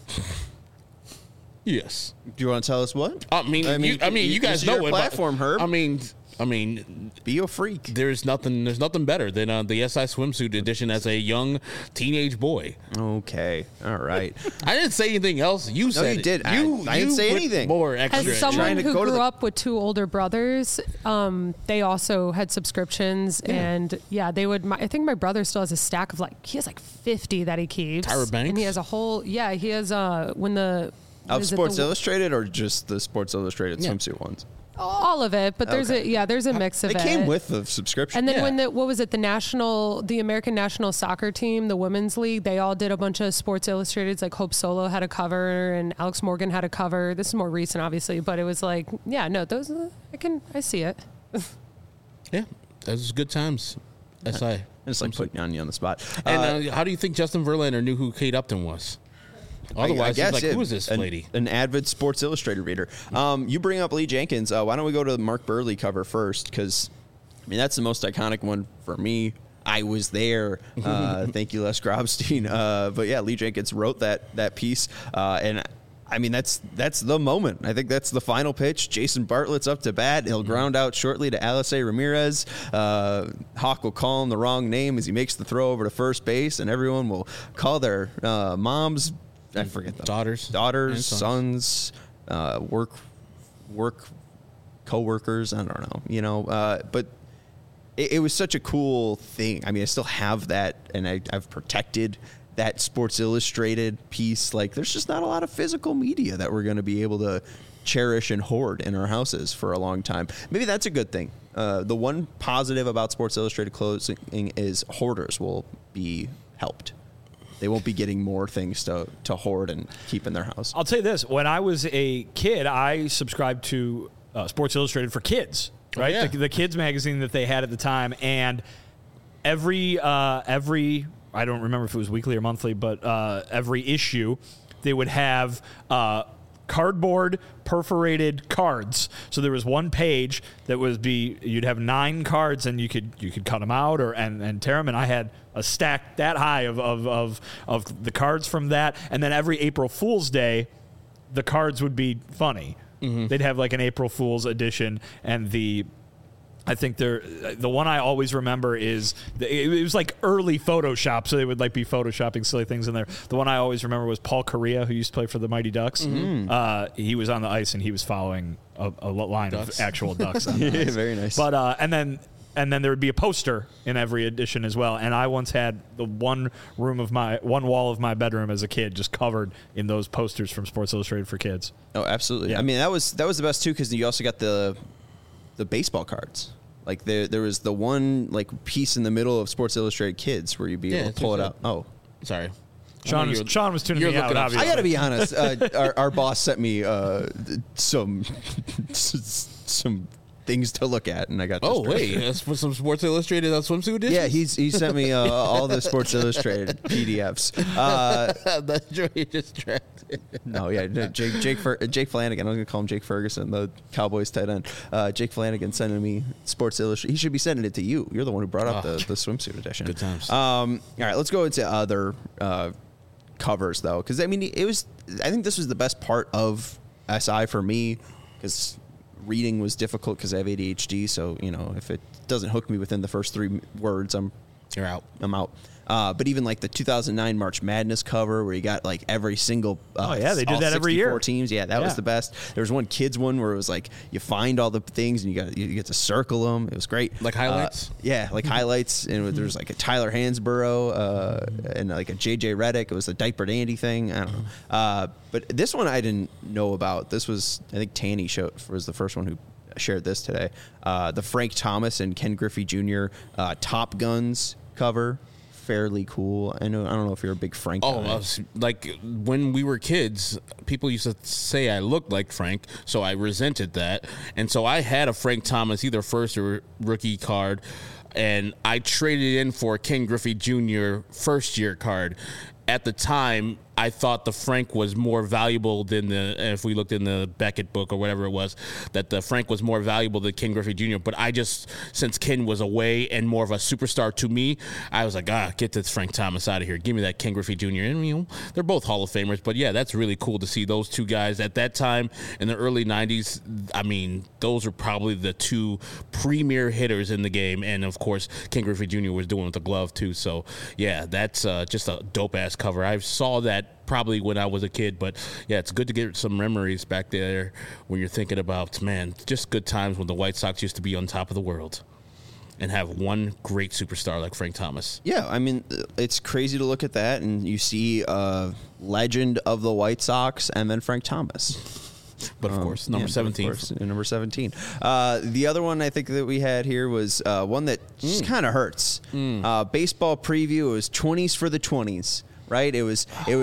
S2: Yes.
S1: Do you want to tell us what?
S2: You guys know
S1: your platform, Herb.
S2: I mean,
S1: be a freak.
S2: There's nothing better than the SI swimsuit edition as a young teenage boy.
S1: Okay, all right.
S2: I didn't say anything else. You said
S1: you did. I didn't say anything.
S2: More extra.
S3: As someone who grew up with two older brothers, they also had subscriptions, and they would. I think my brother still has a stack of he has 50 that he keeps.
S2: Tyra Banks,
S3: and he has a whole. Yeah, he has when the.
S1: Of Sports Illustrated, or just the Sports Illustrated swimsuit ones?
S3: All of it, but there's a mix of it.
S1: It came with the subscription.
S3: And then when the American national soccer team, the women's league, they all did a bunch of Sports Illustrateds. Like Hope Solo had a cover, and Alex Morgan had a cover. This is more recent, obviously, but it was those I see it.
S2: Yeah, those good times. SI.
S1: It's like putting you on the spot.
S2: And how do you think Justin Verlander knew who Kate Upton was? Otherwise, I guess, who is this lady?
S1: An avid Sports Illustrated reader. You bring up Lee Jenkins. Why don't we go to the Mark Burley cover first? Because, that's the most iconic one for me. I was there. Thank you, Les Grobstein. But yeah, Lee Jenkins wrote that piece. And that's the moment. I think that's the final pitch. Jason Bartlett's up to bat. He'll ground out shortly to Alice Ramirez. Hawk will call him the wrong name as he makes the throw over to first base, and everyone will call their moms. I forget them. Daughters, sons, work co-workers. I don't know, but it was such a cool thing. I still have that, and I've protected that Sports Illustrated piece. There's just not a lot of physical media that we're going to be able to cherish and hoard in our houses for a long time. Maybe that's a good thing. The one positive about Sports Illustrated clothing is hoarders will be helped. They won't be getting more things to hoard and keep in their house.
S4: I'll tell you this. When I was a kid, I subscribed to Sports Illustrated for kids, right?
S2: Oh, yeah.
S4: The kids magazine that they had at the time. And every I don't remember if it was weekly or monthly, but every issue, they would have cardboard perforated cards. So there was one page that you'd have 9 cards, and you could cut them out and tear them. And I had a stack that high of the cards from that. And then every April Fool's Day, the cards would be funny. Mm-hmm. They'd have an April Fool's edition, and I think the one I always remember is it was early Photoshop, so they would be photoshopping silly things in there. The one I always remember was Paul Correa, who used to play for the Mighty Ducks. Mm-hmm. He was on the ice, and he was following a line ducks. Of actual ducks. On the ice.
S1: Very nice.
S4: But and then and then there would be a poster in every edition as well. And I once had the one wall of my bedroom as a kid just covered in those posters from Sports Illustrated for kids.
S1: Oh, absolutely.
S4: Yeah.
S1: I mean, that was the best too, because you also got the baseball cards. There was the one piece in the middle of Sports Illustrated Kids where you'd be able to pull it out. Oh,
S2: sorry.
S4: Sean was tuning me out. Obviously.
S1: I got to be honest. Our boss sent me some things to look at, and I got.
S2: Oh wait, that's for some Sports Illustrated swimsuit editions?
S1: Yeah, he sent me all the Sports Illustrated PDFs.
S2: That's really distracted.
S1: No, yeah, Jake Flanagan. I'm gonna call him Jake Ferguson, the Cowboys tight end. Jake Flanagan sending me Sports Illustrated. He should be sending it to you. You're the one who brought up the swimsuit edition.
S2: Good times.
S1: All right, let's go into other covers though, because I mean, I think this was the best part of SI for me, because reading was difficult because I have ADHD. So if it doesn't hook me within the first 3 words,
S2: You're out.
S1: I'm out. But even the 2009 March Madness cover where you got every single
S4: they did that every year.
S1: Teams, yeah, that was the best. There was one kids one where it was you find all the things and you get to circle them. It was great,
S2: Highlights.
S1: Highlights, and there was a Tyler Hansborough and a JJ Redick. It was the Diaper Dandy thing. I don't know, but this one I didn't know about. This was, I think Tanny was the first one who shared this today. The Frank Thomas and Ken Griffey Jr. Top Guns cover. Fairly cool. I don't know if you're a big Frank guy.
S2: When we were kids, people used to say I looked like Frank, so I resented that. And so I had a Frank Thomas, either first or rookie card, and I traded in for a Ken Griffey Jr. first year card. At the time, I thought the Frank was more valuable than if we looked in the Beckett book or whatever it was, that the Frank was more valuable than Ken Griffey Jr. But since Ken was away and more of a superstar to me, I was like, get this Frank Thomas out of here. Give me that Ken Griffey Jr. And, they're both Hall of Famers. But, yeah, that's really cool to see those two guys. At that time, in the early 90s, I mean, those are probably the 2 premier hitters in the game. And, of course, Ken Griffey Jr. was doing with the glove, too. So, yeah, that's just a dope-ass cover. I saw that probably when I was a kid, but yeah, it's good to get some memories back there when you're thinking about, man, just good times when the White Sox used to be on top of the world and have one great superstar like Frank Thomas.
S1: Yeah, I mean, it's crazy to look at that and you see a legend of the White Sox and then Frank Thomas.
S2: But of course, number 17.
S1: Of course, number 17. The other one I think that we had here was one that just kind of hurts. Baseball preview. It was 20s for the 20s. Right, it was the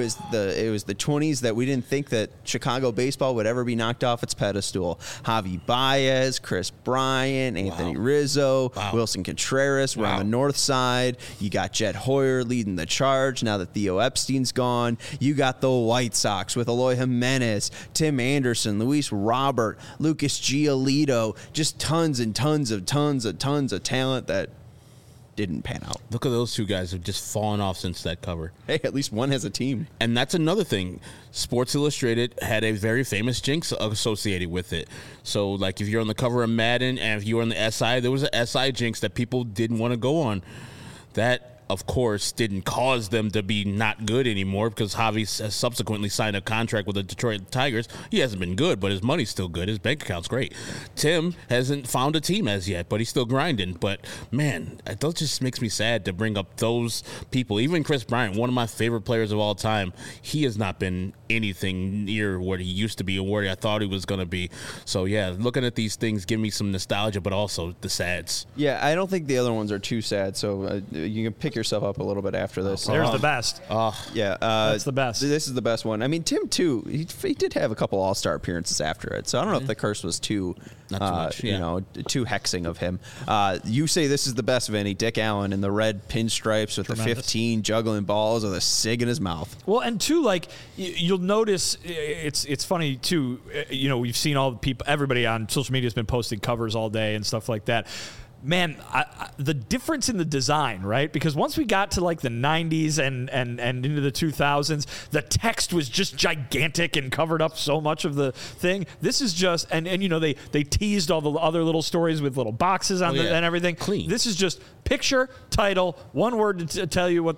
S1: 20s that we didn't think that Chicago baseball would ever be knocked off its pedestal. Javi Baez, Chris Bryant, Anthony Rizzo, Wilson Contreras were on the north side. You got Jed Hoyer leading the charge. Now that Theo Epstein's gone, you got the White Sox with Eloy Jimenez, Tim Anderson, Luis Robert, Lucas Giolito, just tons and tons of talent that didn't pan out.
S2: Look at those 2 guys who've just fallen off since that cover.
S1: Hey, at least one has a team.
S2: And that's another thing. Sports Illustrated had a very famous jinx associated with it. So, if you're on the cover of Madden and if you were on the SI, there was an SI jinx that people didn't want to go on. That, of course, didn't cause them to be not good anymore because Javi has subsequently signed a contract with the Detroit Tigers. He hasn't been good, but his money's still good. His bank account's great. Tim hasn't found a team as yet, but he's still grinding. But, man, that just makes me sad to bring up those people. Even Chris Bryant, one of my favorite players of all time, he has not been anything near what he used to be or where I thought he was going to be. So, yeah, looking at these things give me some nostalgia, but also the sads.
S1: Yeah, I don't think the other ones are too sad, so you can pick yourself up a little bit after this.
S4: There's the best.
S1: Yeah,
S4: that's the best.
S1: This is the best one. I mean, Tim too. He did have a couple All-Star appearances after it, so I don't know if the curse was too,
S2: not too much,
S1: too hexing of him. You say this is the best, Vinny. Dick Allen in the red pinstripes with the 15 juggling balls with a cig in his mouth.
S4: Well, and too, you'll notice it's funny too. We've seen all the people, everybody on social media has been posting covers all day and stuff like that. Man, the difference in the design, right? Because once we got to the 90s and into the 2000s, the text was just gigantic and covered up so much of the thing. This is just, and they teased all the other little stories with little boxes on and everything.
S2: Clean.
S4: This is just picture, title, one word to tell you what the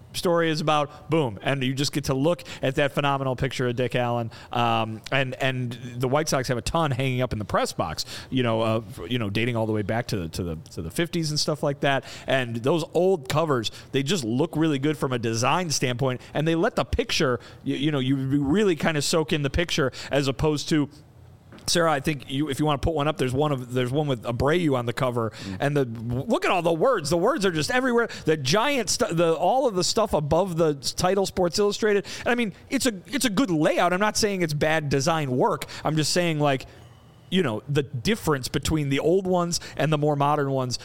S4: story is about, boom, and you just get to look at that phenomenal picture of Dick Allen. And the White Sox have a ton hanging up in the press box, dating all the way back to the 50s and stuff like that. And those old covers, they just look really good from a design standpoint, and they let the picture, you really kind of soak in the picture, as opposed to, Sarah, I think if you want to put one up, there's one with Abreu on the cover, and look at all the words. The words are just everywhere. The giant all of the stuff above the title, Sports Illustrated. And I mean, it's a good layout. I'm not saying it's bad design work. I'm just saying, like, the difference between the old ones and the more modern ones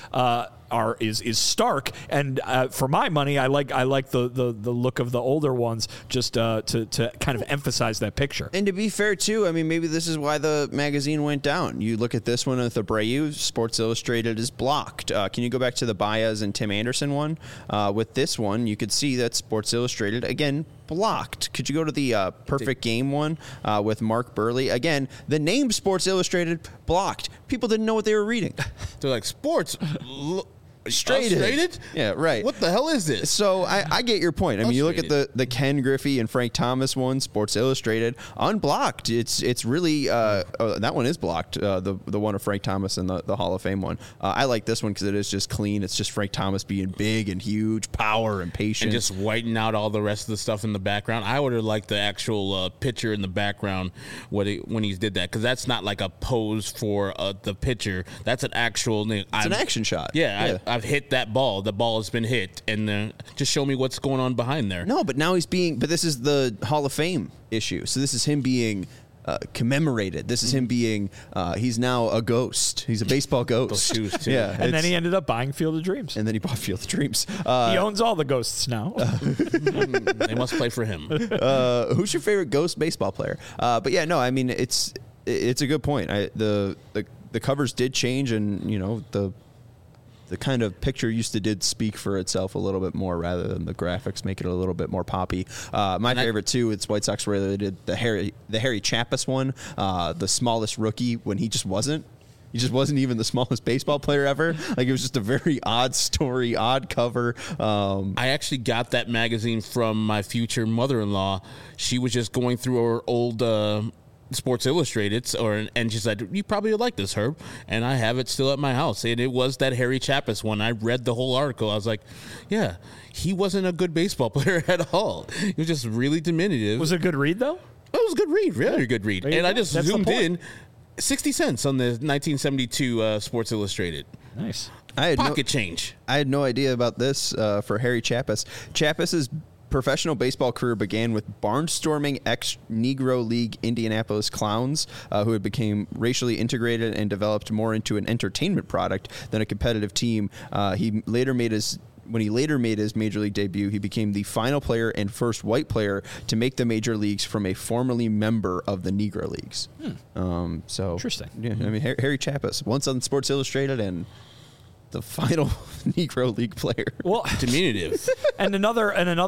S4: is stark. And for my money, I like the look of the older ones, just to kind of emphasize that picture.
S1: And to be fair too, I mean, maybe this is why the magazine went down. You look at this one with Abreu, Sports Illustrated is blocked. Can you go back to the Baez and Tim Anderson one? With this one, you could see that Sports Illustrated, again, blocked. Could you go to the Perfect Game one with Mark Burley? Again, the name Sports Illustrated, blocked. People didn't know what they were reading.
S2: They're like, Sports
S1: Illustrated? Yeah, right.
S2: What the hell is this?
S1: So I get your point. I mean, you look at the Ken Griffey and Frank Thomas one, Sports Illustrated, unblocked. It's really that one is blocked. The one of Frank Thomas and the Hall of Fame one. I like this one because it is just clean. It's just Frank Thomas being big and huge, power and patience,
S2: and just whiting out all the rest of the stuff in the background. I would have liked the actual picture in the background when he did that, because that's not like a pose for the picture. That's an actual.
S1: It's an action shot.
S2: Yeah. I've hit that ball. The ball has been hit, and just show me what's going on behind there.
S1: No, but now but this is the Hall of Fame issue. So this is him being commemorated. This is him being, he's now a ghost. He's a baseball ghost.
S2: Those shoes, too.
S1: Yeah,
S4: and then he ended up buying Field of Dreams.
S1: And then he bought Field of Dreams.
S4: He owns all the ghosts now.
S2: They must play for him.
S1: Who's your favorite ghost baseball player? But yeah, no, I mean, it's a good point. The covers did change, and the kind of picture did speak for itself a little bit more, rather than the graphics make it a little bit more poppy. My favorite too, it's White Sox where they did the Harry Chappas one, the smallest rookie, when he just wasn't even the smallest baseball player ever. Like, it was just a very odd story, odd cover.
S2: I actually got that magazine from my future mother-in-law. She was just going through her old Sports Illustrated, and she said, "You probably would like this, Herb." And I have it still at my house, and it was that Harry Chappas one. I read the whole article. I was like, "Yeah, he wasn't a good baseball player at all. He was just really diminutive."
S4: Was it a good read though?
S2: It was a good read, really good read. And I just
S4: That's
S2: zoomed in, 60 cents on the 1972 Sports Illustrated.
S4: Nice.
S2: Pocket change.
S1: I had no idea about this for Harry Chappas. Chappas's professional baseball career began with barnstorming ex-Negro League Indianapolis Clowns, who had become racially integrated and developed more into an entertainment product than a competitive team. When he later made his major league debut, he became the final player and first white player to make the major leagues from a formerly member of the Negro Leagues. So
S4: interesting.
S1: Yeah, I mean, Harry Chappas, once on Sports Illustrated, and the final Negro League player.
S4: Well,
S2: diminutive.
S4: and another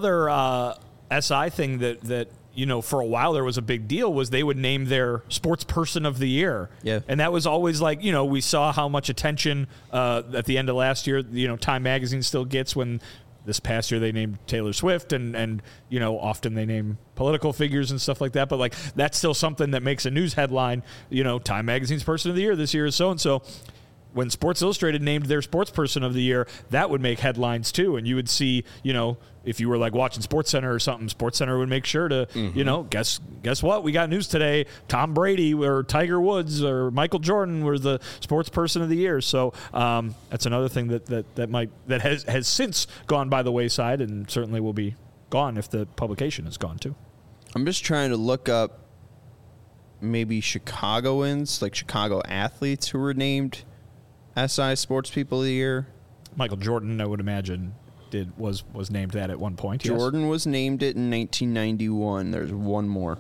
S4: SI thing that for a while there was a big deal was they would name their sports person of the year.
S1: Yeah.
S4: And that was always like, we saw how much attention at the end of last year, Time Magazine still gets when this past year they named Taylor Swift and often they name political figures and stuff like that. But like, that's still something that makes a news headline. Time Magazine's person of the year this year is so-and-so. When Sports Illustrated named their sports person of the year, that would make headlines too. And you would see, if you were like watching SportsCenter or something, SportsCenter would make sure to, guess what? We got news today. Tom Brady or Tiger Woods or Michael Jordan were the sports person of the year. So that's another thing that has since gone by the wayside, and certainly will be gone if the publication is gone too.
S1: I'm just trying to look up maybe Chicagoans, like Chicago athletes who were named SI Sports People of the Year.
S4: Michael Jordan, I would imagine, was named that at one point.
S1: Jordan
S4: yes.
S1: was named it in 1991. There's one more.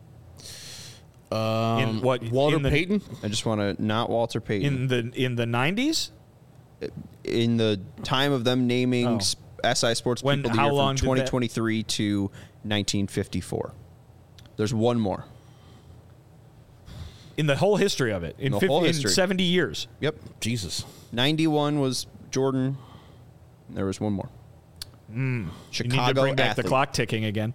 S2: Walter Payton?
S1: I just want to not Walter Payton.
S4: In the 90s?
S1: In the time of them naming SI Sports People of the Year from 2023 to 1954. There's one more.
S4: In the whole history of it. In 70 years.
S1: Yep.
S2: Jesus.
S1: 91 was Jordan. There was one more. Chicago
S4: You need to bring back
S1: athlete.
S4: the clock ticking again.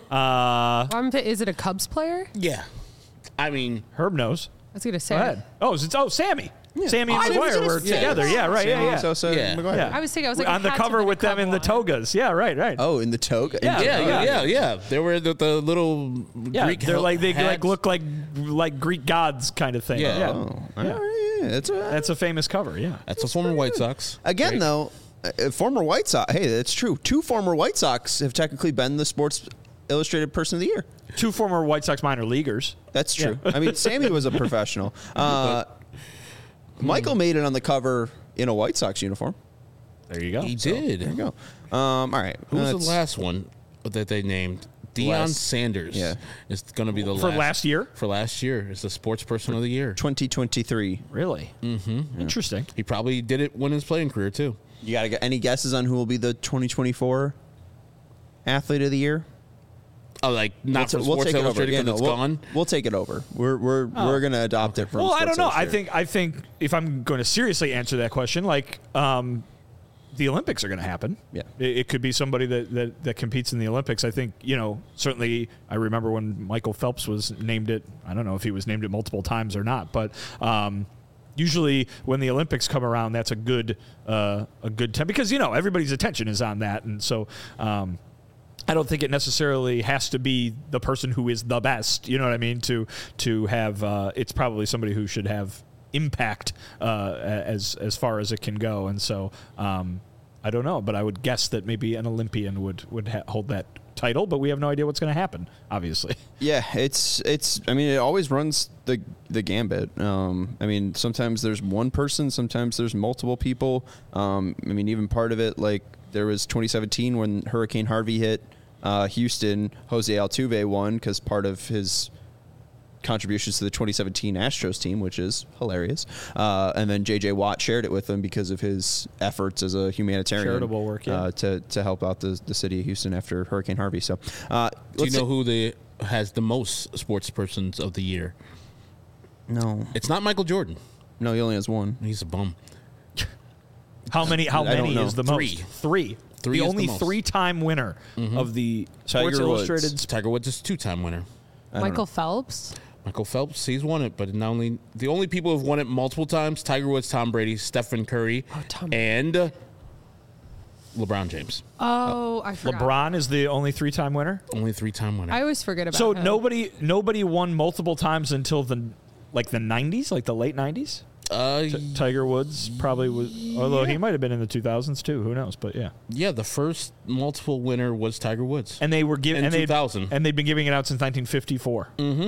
S3: Is it a Cubs player?
S2: Yeah. I mean,
S4: Herb knows.
S3: I was gonna say.
S4: Go ahead. Sammy. Sammy
S3: Oh, I
S4: and
S3: was
S4: McGuire
S3: gonna
S4: were
S3: say
S4: together.
S3: that.
S4: Yeah, right.
S1: Sammy
S4: Yeah.
S1: Sosa and
S2: Yeah.
S1: McGuire.
S4: Yeah.
S3: I was thinking. I was like
S4: on the
S3: it had to
S4: cover
S3: have
S4: with
S3: been a
S4: them in the
S3: Cub one.
S4: togas. Yeah, right.
S1: Oh, in the toga.
S4: Yeah.
S2: yeah. They were the little
S4: Yeah,
S2: Greek
S4: they're like they
S2: hats.
S4: look like Greek gods kind of thing.
S2: Yeah.
S1: Oh, all right, yeah.
S4: That's a famous cover. Yeah.
S2: That's a former White Sox.
S1: Again,
S2: Great.
S1: though, former White Sox. Hey, that's true. 2 former White Sox have technically been the Sports Illustrated Person of the Year.
S4: 2 former White Sox minor leaguers.
S1: That's true. I mean, Sammy was a professional. Michael made it on the cover in a White Sox uniform.
S4: There you go.
S2: He did.
S1: There you go. All right.
S2: Who was the
S1: That's-
S2: last one that they named? Deion
S1: Last-
S2: Sanders.
S1: yeah.
S2: Is going to be the
S4: For last year?
S2: For last year. Is the Sports Person of the Year.
S1: 2023.
S4: Really? Mm-hmm. Interesting.
S2: He probably did it when his playing career, too.
S1: You got to get any guesses on who will be the 2024 Athlete of the Year?
S2: Oh, like not from
S1: We'll
S2: Sports
S1: take it over.
S2: Illustrated
S1: Yeah,
S2: because
S1: no,
S2: it's gone?
S1: We'll take it over. We're going to adopt it from.
S4: Well, I
S1: Sports
S4: don't know.
S1: Illustrated.
S4: I think if I'm going to seriously answer that question, like the Olympics are going to happen.
S1: Yeah.
S4: It could be somebody that competes in the Olympics. I think, certainly I remember when Michael Phelps was named it. I don't know if he was named it multiple times or not, but usually when the Olympics come around, that's a good time because, everybody's attention is on that. And so I don't think it necessarily has to be the person who is the best, you know what I mean, to have it's probably somebody who should have impact as far as it can go. And so I don't know, but I would guess that maybe an Olympian would hold that title, but we have no idea what's going to happen, obviously.
S1: Yeah, it's. I mean, it always runs the gambit. I mean, sometimes there's one person, sometimes there's multiple people. I mean, even part of it, like there was 2017 when Hurricane Harvey hit Houston. Jose Altuve won because part of his contributions to the 2017 Astros team, which is hilarious. And then J.J. Watt shared it with him because of his efforts as a humanitarian.
S4: Charitable work, yeah.
S1: To help out the city of Houston after Hurricane Harvey. So,
S2: Do you know who has the most Sports Persons of the Year?
S1: No.
S2: It's not Michael Jordan.
S1: No, he only has one.
S2: He's a bum.
S4: How many
S1: don't know.
S4: is the
S2: Three.
S4: most? Three.
S2: Three
S4: The
S2: is
S4: only
S2: the most.
S4: 3-time winner of the Sports
S1: Tiger Woods.
S4: Illustrated.
S2: Tiger Woods is a 2-time winner.
S3: Michael Phelps.
S2: Michael Phelps, he's won it, but the only people who've won it multiple times: Tiger Woods, Tom Brady, Stephen Curry, and LeBron James.
S3: Oh, I forgot.
S4: LeBron is the only 3-time winner.
S2: Only 3-time winner.
S3: I always forget about
S4: So
S3: him.
S4: nobody won multiple times until the 90s, like the late 90s. Tiger Woods probably was, although he might have been in the 2000s too. Who knows? But yeah.
S2: Yeah, the first multiple winner was Tiger Woods.
S4: And they were giving
S2: In 2000.
S4: and they've been giving it out since 1954.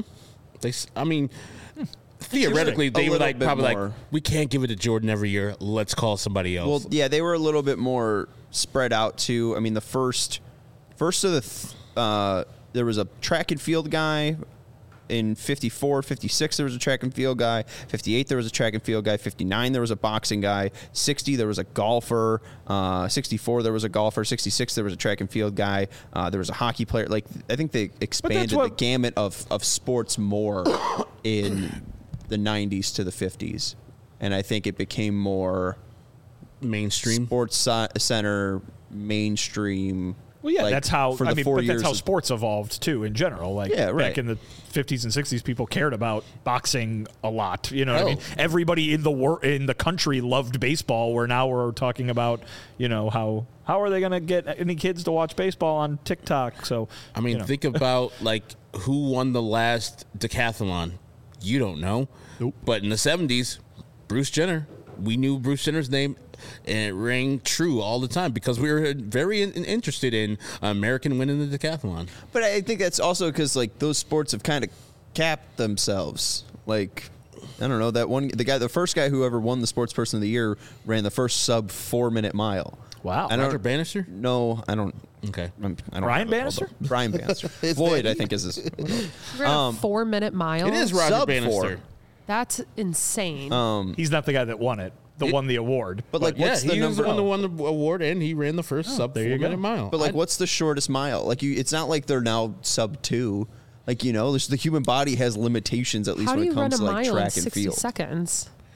S2: Theoretically, they
S1: a
S2: were
S1: little
S2: like
S1: bit
S2: probably
S1: more.
S2: like, we can't give it to Jordan every year. Let's call somebody else.
S1: Well, yeah, they were a little bit more spread out too. I mean, the first of there was a track and field guy. In 54, 56, there was a track and field guy. 58, there was a track and field guy. 59, there was a boxing guy. 60, there was a golfer. 64, there was a golfer. 66, there was a track and field guy. There was a hockey player. Like, I think they expanded the gamut of sports more in the 90s to the 50s. And I think it became more
S2: mainstream.
S1: Sports Center, mainstream.
S4: Well, yeah,
S1: like,
S4: that's how.
S1: for the 4
S4: but
S1: years
S4: that's how
S1: of-
S4: sports evolved too. In general, like
S1: Yeah, right.
S4: back in the 50s and 60s, people cared about boxing a lot. You know what I mean?
S2: Oh.
S4: Everybody in the country loved baseball. Where now we're talking about, how are they going to get any kids to watch baseball on TikTok? So
S2: I mean, think about like who won the last decathlon. You don't know.
S4: Nope.
S2: But in the 70s, Bruce Jenner. We knew Bruce Jenner's name, and it rang true all the time because we were very interested in American winning the decathlon.
S1: But I think that's also because like those sports have kind of capped themselves. Like, I don't know, the first guy who ever won the Sports Person of the Year ran the first sub 4-minute mile.
S4: wow,
S1: I don't-
S2: Roger Bannister?
S1: No, I don't.
S2: Okay.
S1: I don't
S4: Brian
S1: know.
S4: Bannister?
S1: Brian Bannister. Floyd, I think, is his.
S3: Ran a 4-minute mile.
S2: It is Roger
S1: Sub
S2: Bannister.
S1: 4.
S3: That's insane.
S4: he's not the guy that won it. Won the award.
S1: But like,
S2: Yeah,
S1: what's the
S2: he was
S1: number?
S2: the one that won the award, and he ran the first sub
S4: there you
S2: 4-minute
S4: go.
S2: mile.
S1: But like, what's the shortest mile? Like, it's not like they're now sub 2. Like, the human body has limitations at least
S3: How do
S1: when
S3: you
S1: it
S3: run
S1: comes
S3: a
S1: to like
S3: mile in
S1: track and
S3: 60
S1: field.
S3: seconds?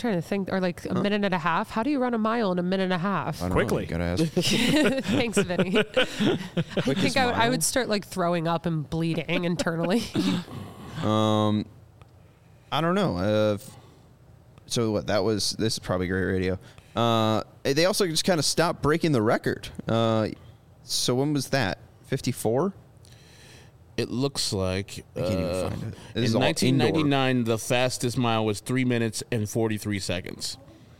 S3: trying to think, or like a minute and a half. How do you run a mile in a minute and a half?
S1: I don't
S4: Quickly.
S1: know, you gotta ask.
S3: Thanks, Vinny. I think I would start like throwing up and bleeding internally.
S1: I don't know. So what? This is probably great radio. They also just kind of stopped breaking the record. So when was that? 54?
S2: It looks like
S1: I can't even find it. This is
S2: in
S1: all
S2: 1999, the fastest mile was 3 minutes and 43 seconds.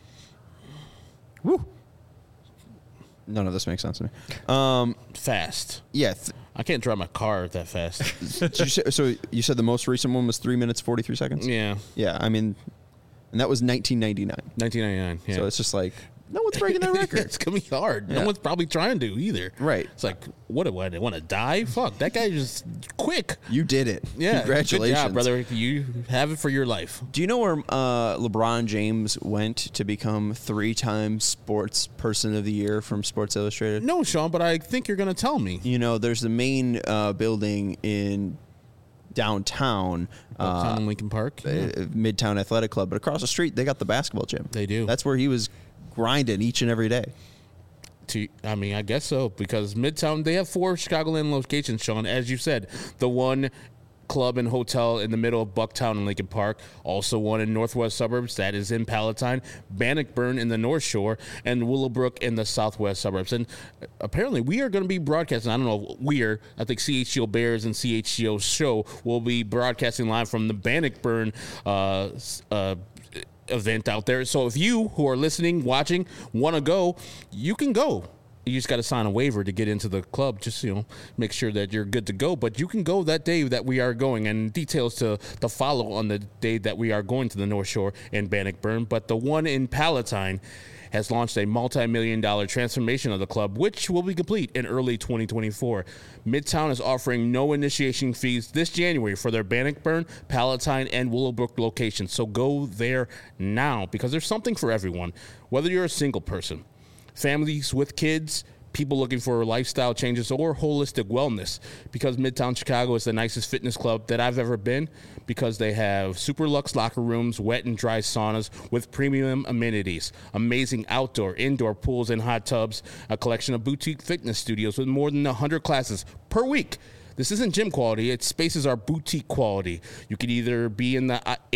S1: Woo. None of this makes sense to me.
S2: Fast.
S1: Yeah.
S2: I can't drive my car that fast.
S1: So you said the most recent one was 3 minutes 43 seconds.
S2: Yeah.
S1: Yeah. I mean, and that was 1999.
S2: 1999. Yeah.
S1: So it's just like no one's breaking that record.
S2: It's gonna be hard.
S1: Yeah.
S2: No one's probably trying to either.
S1: Right.
S2: It's like, what do I want to die? Fuck, that guy just quick.
S1: You did it.
S2: Yeah.
S1: Congratulations,
S2: Good job, brother. You have it for your life.
S1: Do you know where LeBron James went to become 3-time Sports Person of the Year from Sports Illustrated?
S2: No, Sean, but I think you're gonna tell me.
S1: You know, there's the main building in downtown,
S2: Uptown in Lincoln Park.
S1: Midtown Athletic Club, but across the street they got the basketball gym.
S2: They do.
S1: That's where he was grinding each and every day.
S2: I mean, I guess so, because Midtown, they have 4 Chicagoland locations, Sean. As you said, the one club and hotel in the middle of Bucktown and Lincoln Park, also one in northwest suburbs, that is in Palatine, Bannockburn in the North Shore, and Willowbrook in the southwest suburbs. And apparently we are going to be broadcasting, I don't know, I think CHGO Bears and CHGO Show will be broadcasting live from the Bannockburn event out there. So if you who are listening, watching, want to go, you can go. You just got to sign a waiver to get into the club. Just, make sure that you're good to go. But you can go that day that we are going, and details to follow on the day that we are going to the North Shore and Bannockburn. But the one in Palatine has launched a multi-million-dollar transformation of the club, which will be complete in early 2024. Midtown is offering no initiation fees this January for their Bannockburn, Palatine, and Willowbrook locations. So go there now, because there's something for everyone. Whether you're a single person, families with kids, people looking for lifestyle changes, or holistic wellness, because Midtown Chicago is the nicest fitness club that I've ever been, because they have super luxe locker rooms, wet and dry saunas with premium amenities, amazing outdoor, indoor pools and hot tubs, a collection of boutique fitness studios with more than 100 classes per week. This isn't gym quality, its spaces are boutique quality. You could either be in the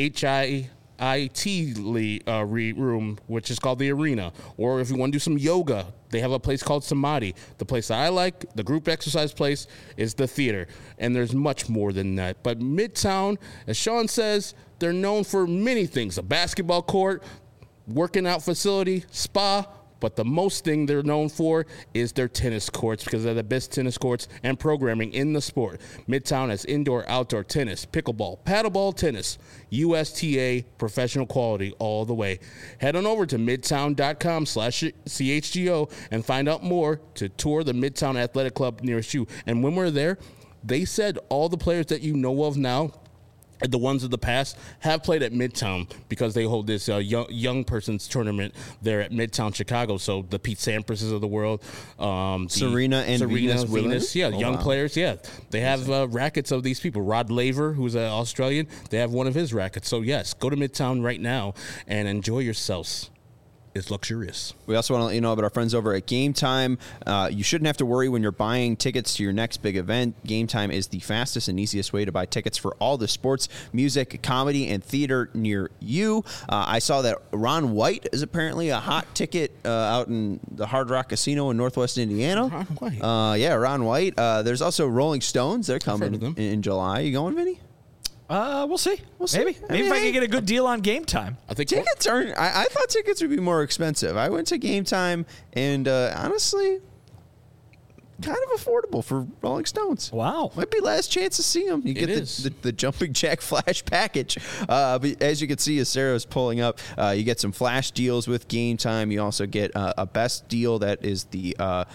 S2: room, which is called the Arena, or if you want to do some yoga, they have a place called Samadhi. The place that I like, the group exercise place, is the theater, and there's much more than that. But Midtown, as Sean says, they're known for many things: a basketball court, working out facility, spa. But the most thing they're known for is their tennis courts, because they're the best tennis courts and programming in the sport. Midtown has indoor, outdoor tennis, pickleball, paddleball tennis, USTA professional quality all the way. Head on over to midtown.com/CHGO and find out more to tour the Midtown Athletic Club nearest you. And when we're there, they said all the players that you know of now, the ones of the past, have played at Midtown, because they hold this young person's tournament there at Midtown Chicago. So the Pete Samprases of the world,
S1: Serena Venus Williams?
S2: Yeah,
S1: Oh,
S2: young
S1: wow.
S2: players. Yeah, they have rackets of these people. Rod Laver, who's an Australian, they have one of his rackets. So yes, go to Midtown right now and enjoy yourselves. It's luxurious.
S1: We also want to let you know about our friends over at Game Time. You shouldn't have to worry when you're buying tickets to your next big event. Game Time is the fastest and easiest way to buy tickets for all the sports, music, comedy, and theater near you. I saw that Ron White is apparently a hot ticket out in the Hard Rock Casino in Northwest Indiana.
S2: Ron White.
S1: Ron White. There's also Rolling Stones. They're coming
S2: heard of them.
S1: in July. You going, Vinny?
S4: We'll see.
S1: see.
S4: Maybe
S1: I mean,
S4: if I
S1: hey.
S4: can get a good deal on Game Time.
S2: I think
S1: Tickets aren't. I thought tickets would be more expensive. I went to Game Time, and honestly, kind of affordable for Rolling Stones.
S4: Wow.
S1: Might be last chance to see them. You get the Jumping Jack Flash package. But as you can see, as Sarah's pulling up, you get some flash deals with Game Time. You also get a best deal that is the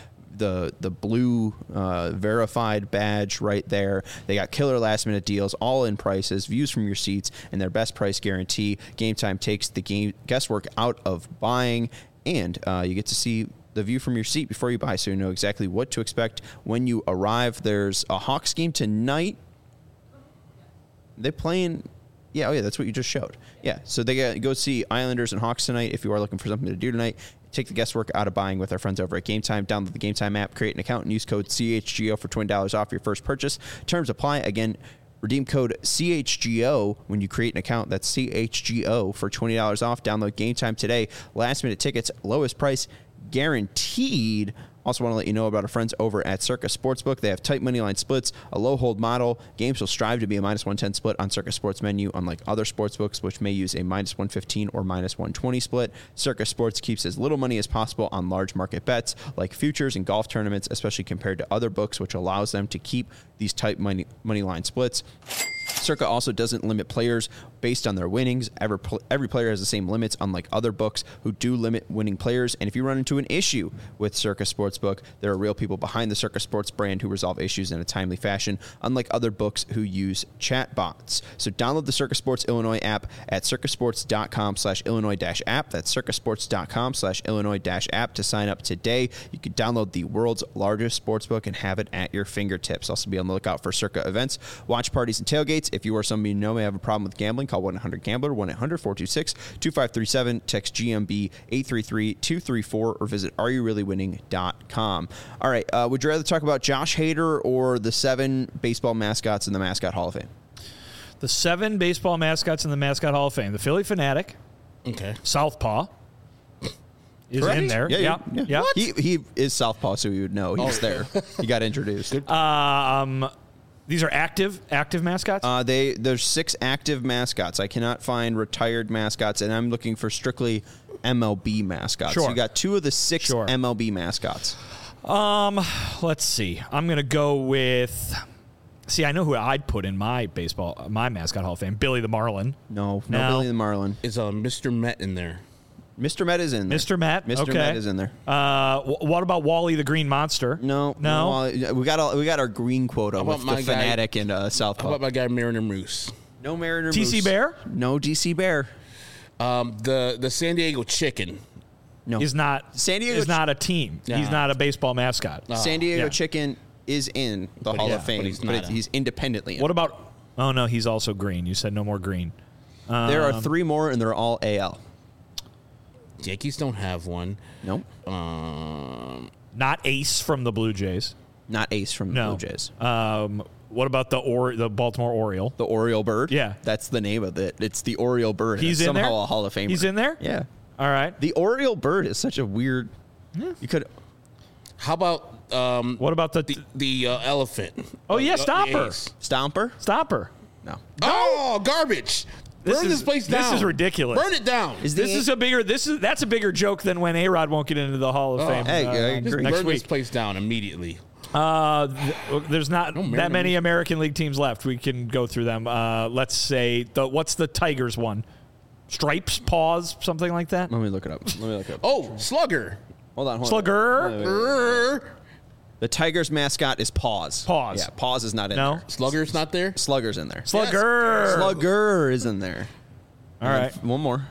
S1: blue verified badge right there. They got killer last minute deals, all in prices, views from your seats, and their best price guarantee. Game Time takes the guesswork out of buying, and you get to see the view from your seat before you buy, so you know exactly what to expect when you arrive. There's a Hawks game tonight. They playing Yeah, oh yeah, that's what you just showed. Yeah, so they go see Islanders and Hawks tonight. If you are looking for something to do tonight, take the guesswork out of buying with our friends over at Game Time. Download the Game Time app, create an account, and use code CHGO for $20 off your first purchase. Terms apply. Again, redeem code CHGO when you create an account. That's CHGO for $20 off. Download Game Time today. Last minute tickets, lowest price guaranteed. Also want to let you know about our friends over at Circa Sportsbook. They have tight money line splits, a low hold model. Games will strive to be a minus 110 split on Circa Sports menu, unlike other sportsbooks, which may use a minus 115 or minus 120 split. Circa Sports keeps as little money as possible on large market bets like futures and golf tournaments, especially compared to other books, which allows them to keep these tight money line splits. Circa also doesn't limit players based on their winnings. Every player has the same limits, unlike other books who do limit winning players. And if you run into an issue with Circa Sportsbook, there are real people behind the Circa Sports brand who resolve issues in a timely fashion, unlike other books who use chat bots. So download the Circa Sports Illinois app at circasports.com/Illinois-app. That's circasports.com/Illinois-app to sign up today. You can download the world's largest sportsbook and have it at your fingertips. Also be on the lookout for Circa events, watch parties, and tailgates. If you or somebody you know may have a problem with gambling, call 1-800-GAMBLER, 1-800-426-2537, text GMB 833-234, or visit areyoureallywinning.com. All right, would you rather talk about Josh Hader or the 7 baseball mascots in the Mascot Hall of Fame?
S4: The 7 baseball mascots in the Mascot Hall of Fame. The Philly Fanatic.
S2: Okay.
S4: Southpaw is
S1: Correct.
S4: in there.
S1: Yeah.
S4: What?
S1: He is Southpaw, so you would know he was there. He got introduced.
S4: These are active mascots?
S1: There's 6 active mascots. I cannot find retired mascots, and I'm looking for strictly MLB mascots.
S4: Sure.
S1: So you got 2 of the 6 MLB mascots.
S4: Let's see. I'm going to go with... See, I know who I'd put in my Mascot Hall of Fame. Billy the Marlin.
S1: No, Billy the Marlin.
S2: Is Mr. Met in there?
S1: Mr. Met is in there.
S4: Mr. Met?
S1: Mr.
S4: Okay.
S1: Met is in there.
S4: What about Wally the Green Monster?
S1: No. We got our green quota with the Fanatic and Southpaw.
S2: How about my guy Mariner Moose?
S1: No Mariner Moose.
S4: TC Bear?
S1: No DC Bear.
S2: The San Diego Chicken.
S1: No.
S4: Is not a team.
S2: Nah.
S4: He's not a baseball mascot.
S1: San Diego Chicken is in the Hall of Fame,
S2: but
S1: he's independently in.
S4: What about... Oh, no, he's also green. You said no more green.
S1: There are 3 more, and they're all AL.
S2: Yankees don't have one.
S1: Nope.
S4: Not Ace from the Blue Jays.
S1: Not Ace from the Blue Jays.
S4: What about the Baltimore Oriole?
S1: The Oriole Bird?
S4: Yeah.
S1: That's the name of it. It's the Oriole Bird.
S4: He's
S1: it's
S4: in there?
S1: somehow a Hall of Famer.
S4: He's in there?
S1: Yeah.
S4: All right.
S1: The Oriole Bird is such a weird... You could...
S2: How about
S4: What about
S2: the elephant?
S4: Oh, yeah, Stomper.
S1: Stomper?
S4: Stomper.
S1: No.
S2: Oh, garbage! Burn this place down.
S4: This is ridiculous.
S2: Burn it down.
S4: That's a bigger joke than when A-Rod won't get into the Hall of Fame.
S1: Hey, I agree.
S2: Burn
S4: Next
S2: this
S4: week.
S2: place down immediately.
S4: There's not that many American League teams left. We can go through them. Let's say what's the Tigers one? Stripes, Paws, something like that.
S1: Let me look it up.
S2: Oh, Slugger.
S1: Hold on.
S4: Slugger.
S1: The Tigers mascot is Paws.
S4: Paws.
S1: Yeah, Paws is not in there.
S2: Slugger's not there?
S1: Slugger's in there.
S4: Slugger.
S1: Slugger is in there.
S4: All right.
S1: One more.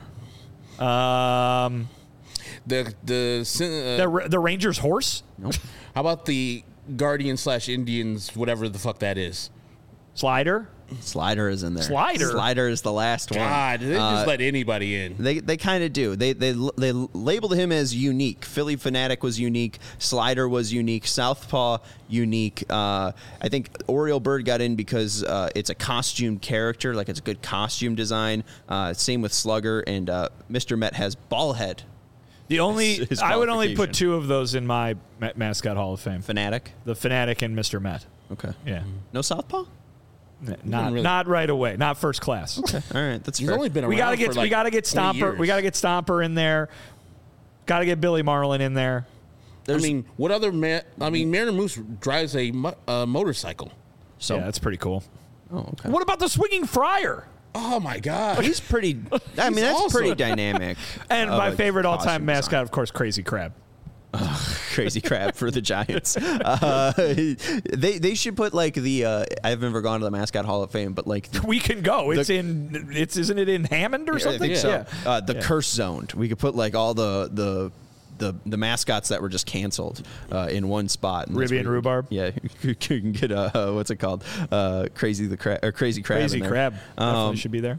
S2: The
S4: Rangers horse?
S1: Nope.
S2: How about the Guardians/Indians, whatever the fuck that is?
S4: Slider?
S1: Slider is in there.
S4: Slider
S1: is the last one.
S2: God, they just let anybody in.
S1: They kind of do. They labeled him as unique. Philly Fanatic was unique. Slider was unique. Southpaw unique. I think Oriole Bird got in because it's a costume character, like it's a good costume design. Same with Slugger, and Mr. Met has ball head.
S4: I would only put 2 of those in my Mascot Hall of Fame.
S1: Fanatic?
S4: The Fanatic and Mr. Met.
S1: Okay.
S4: Yeah.
S1: No Southpaw?
S4: Not right away. Not first class.
S1: Okay. All right, that's
S2: He's
S1: fair.
S2: only been around
S4: We gotta get
S2: for like 20
S4: Stomper.
S2: years.
S4: We gotta get Stomper in there. Gotta get Billy Marlin in there.
S2: What other Mariner Moose drives a motorcycle.
S1: So
S4: yeah, that's pretty cool.
S1: Oh, okay.
S4: What about the Swinging Friar?
S2: Oh my God,
S1: He's pretty. I mean, that's
S2: awesome.
S1: pretty dynamic.
S4: And
S1: of
S4: my
S1: a
S4: favorite all-time
S1: costume
S4: mascot,
S1: design.
S4: of course, Crazy Crab.
S1: Crazy Crab for the Giants. They should put like the. I've never gone to the Mascot Hall of Fame, but like
S4: We can go. Isn't it in Hammond or something?
S1: I think so.
S4: Yeah.
S1: The Curse Zoned. We could put like all the mascots that were just canceled in one spot. And
S4: Ribby and Rhubarb.
S1: Yeah, you can get what's it called? Crazy Crab.
S4: Crazy
S1: in there.
S4: Crab definitely should be there.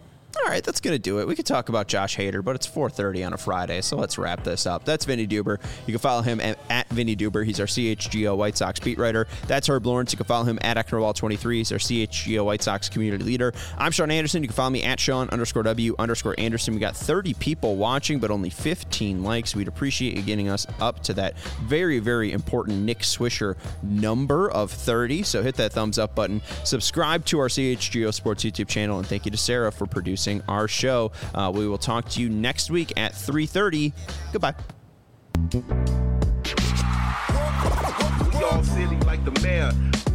S1: All right, that's going to do it. We could talk about Josh Hader, but it's 4:30 on a Friday, so let's wrap this up. That's Vinny Duber. You can follow him at Vinny Duber. He's our CHGO White Sox beat writer. That's Herb Lawrence. You can follow him at Ecknerwall23. He's our CHGO White Sox community leader. I'm Sean Anderson. You can follow me at Sean_W_Anderson. We got 30 people watching, but only 15 likes. We'd appreciate you getting us up to that very, very important Nick Swisher number of 30. So hit that thumbs up button. Subscribe to our CHGO Sports YouTube channel, and thank you to Sarah for producing our show. We will talk to you next week at 3:30. Goodbye.
S5: We all silly like the mayor.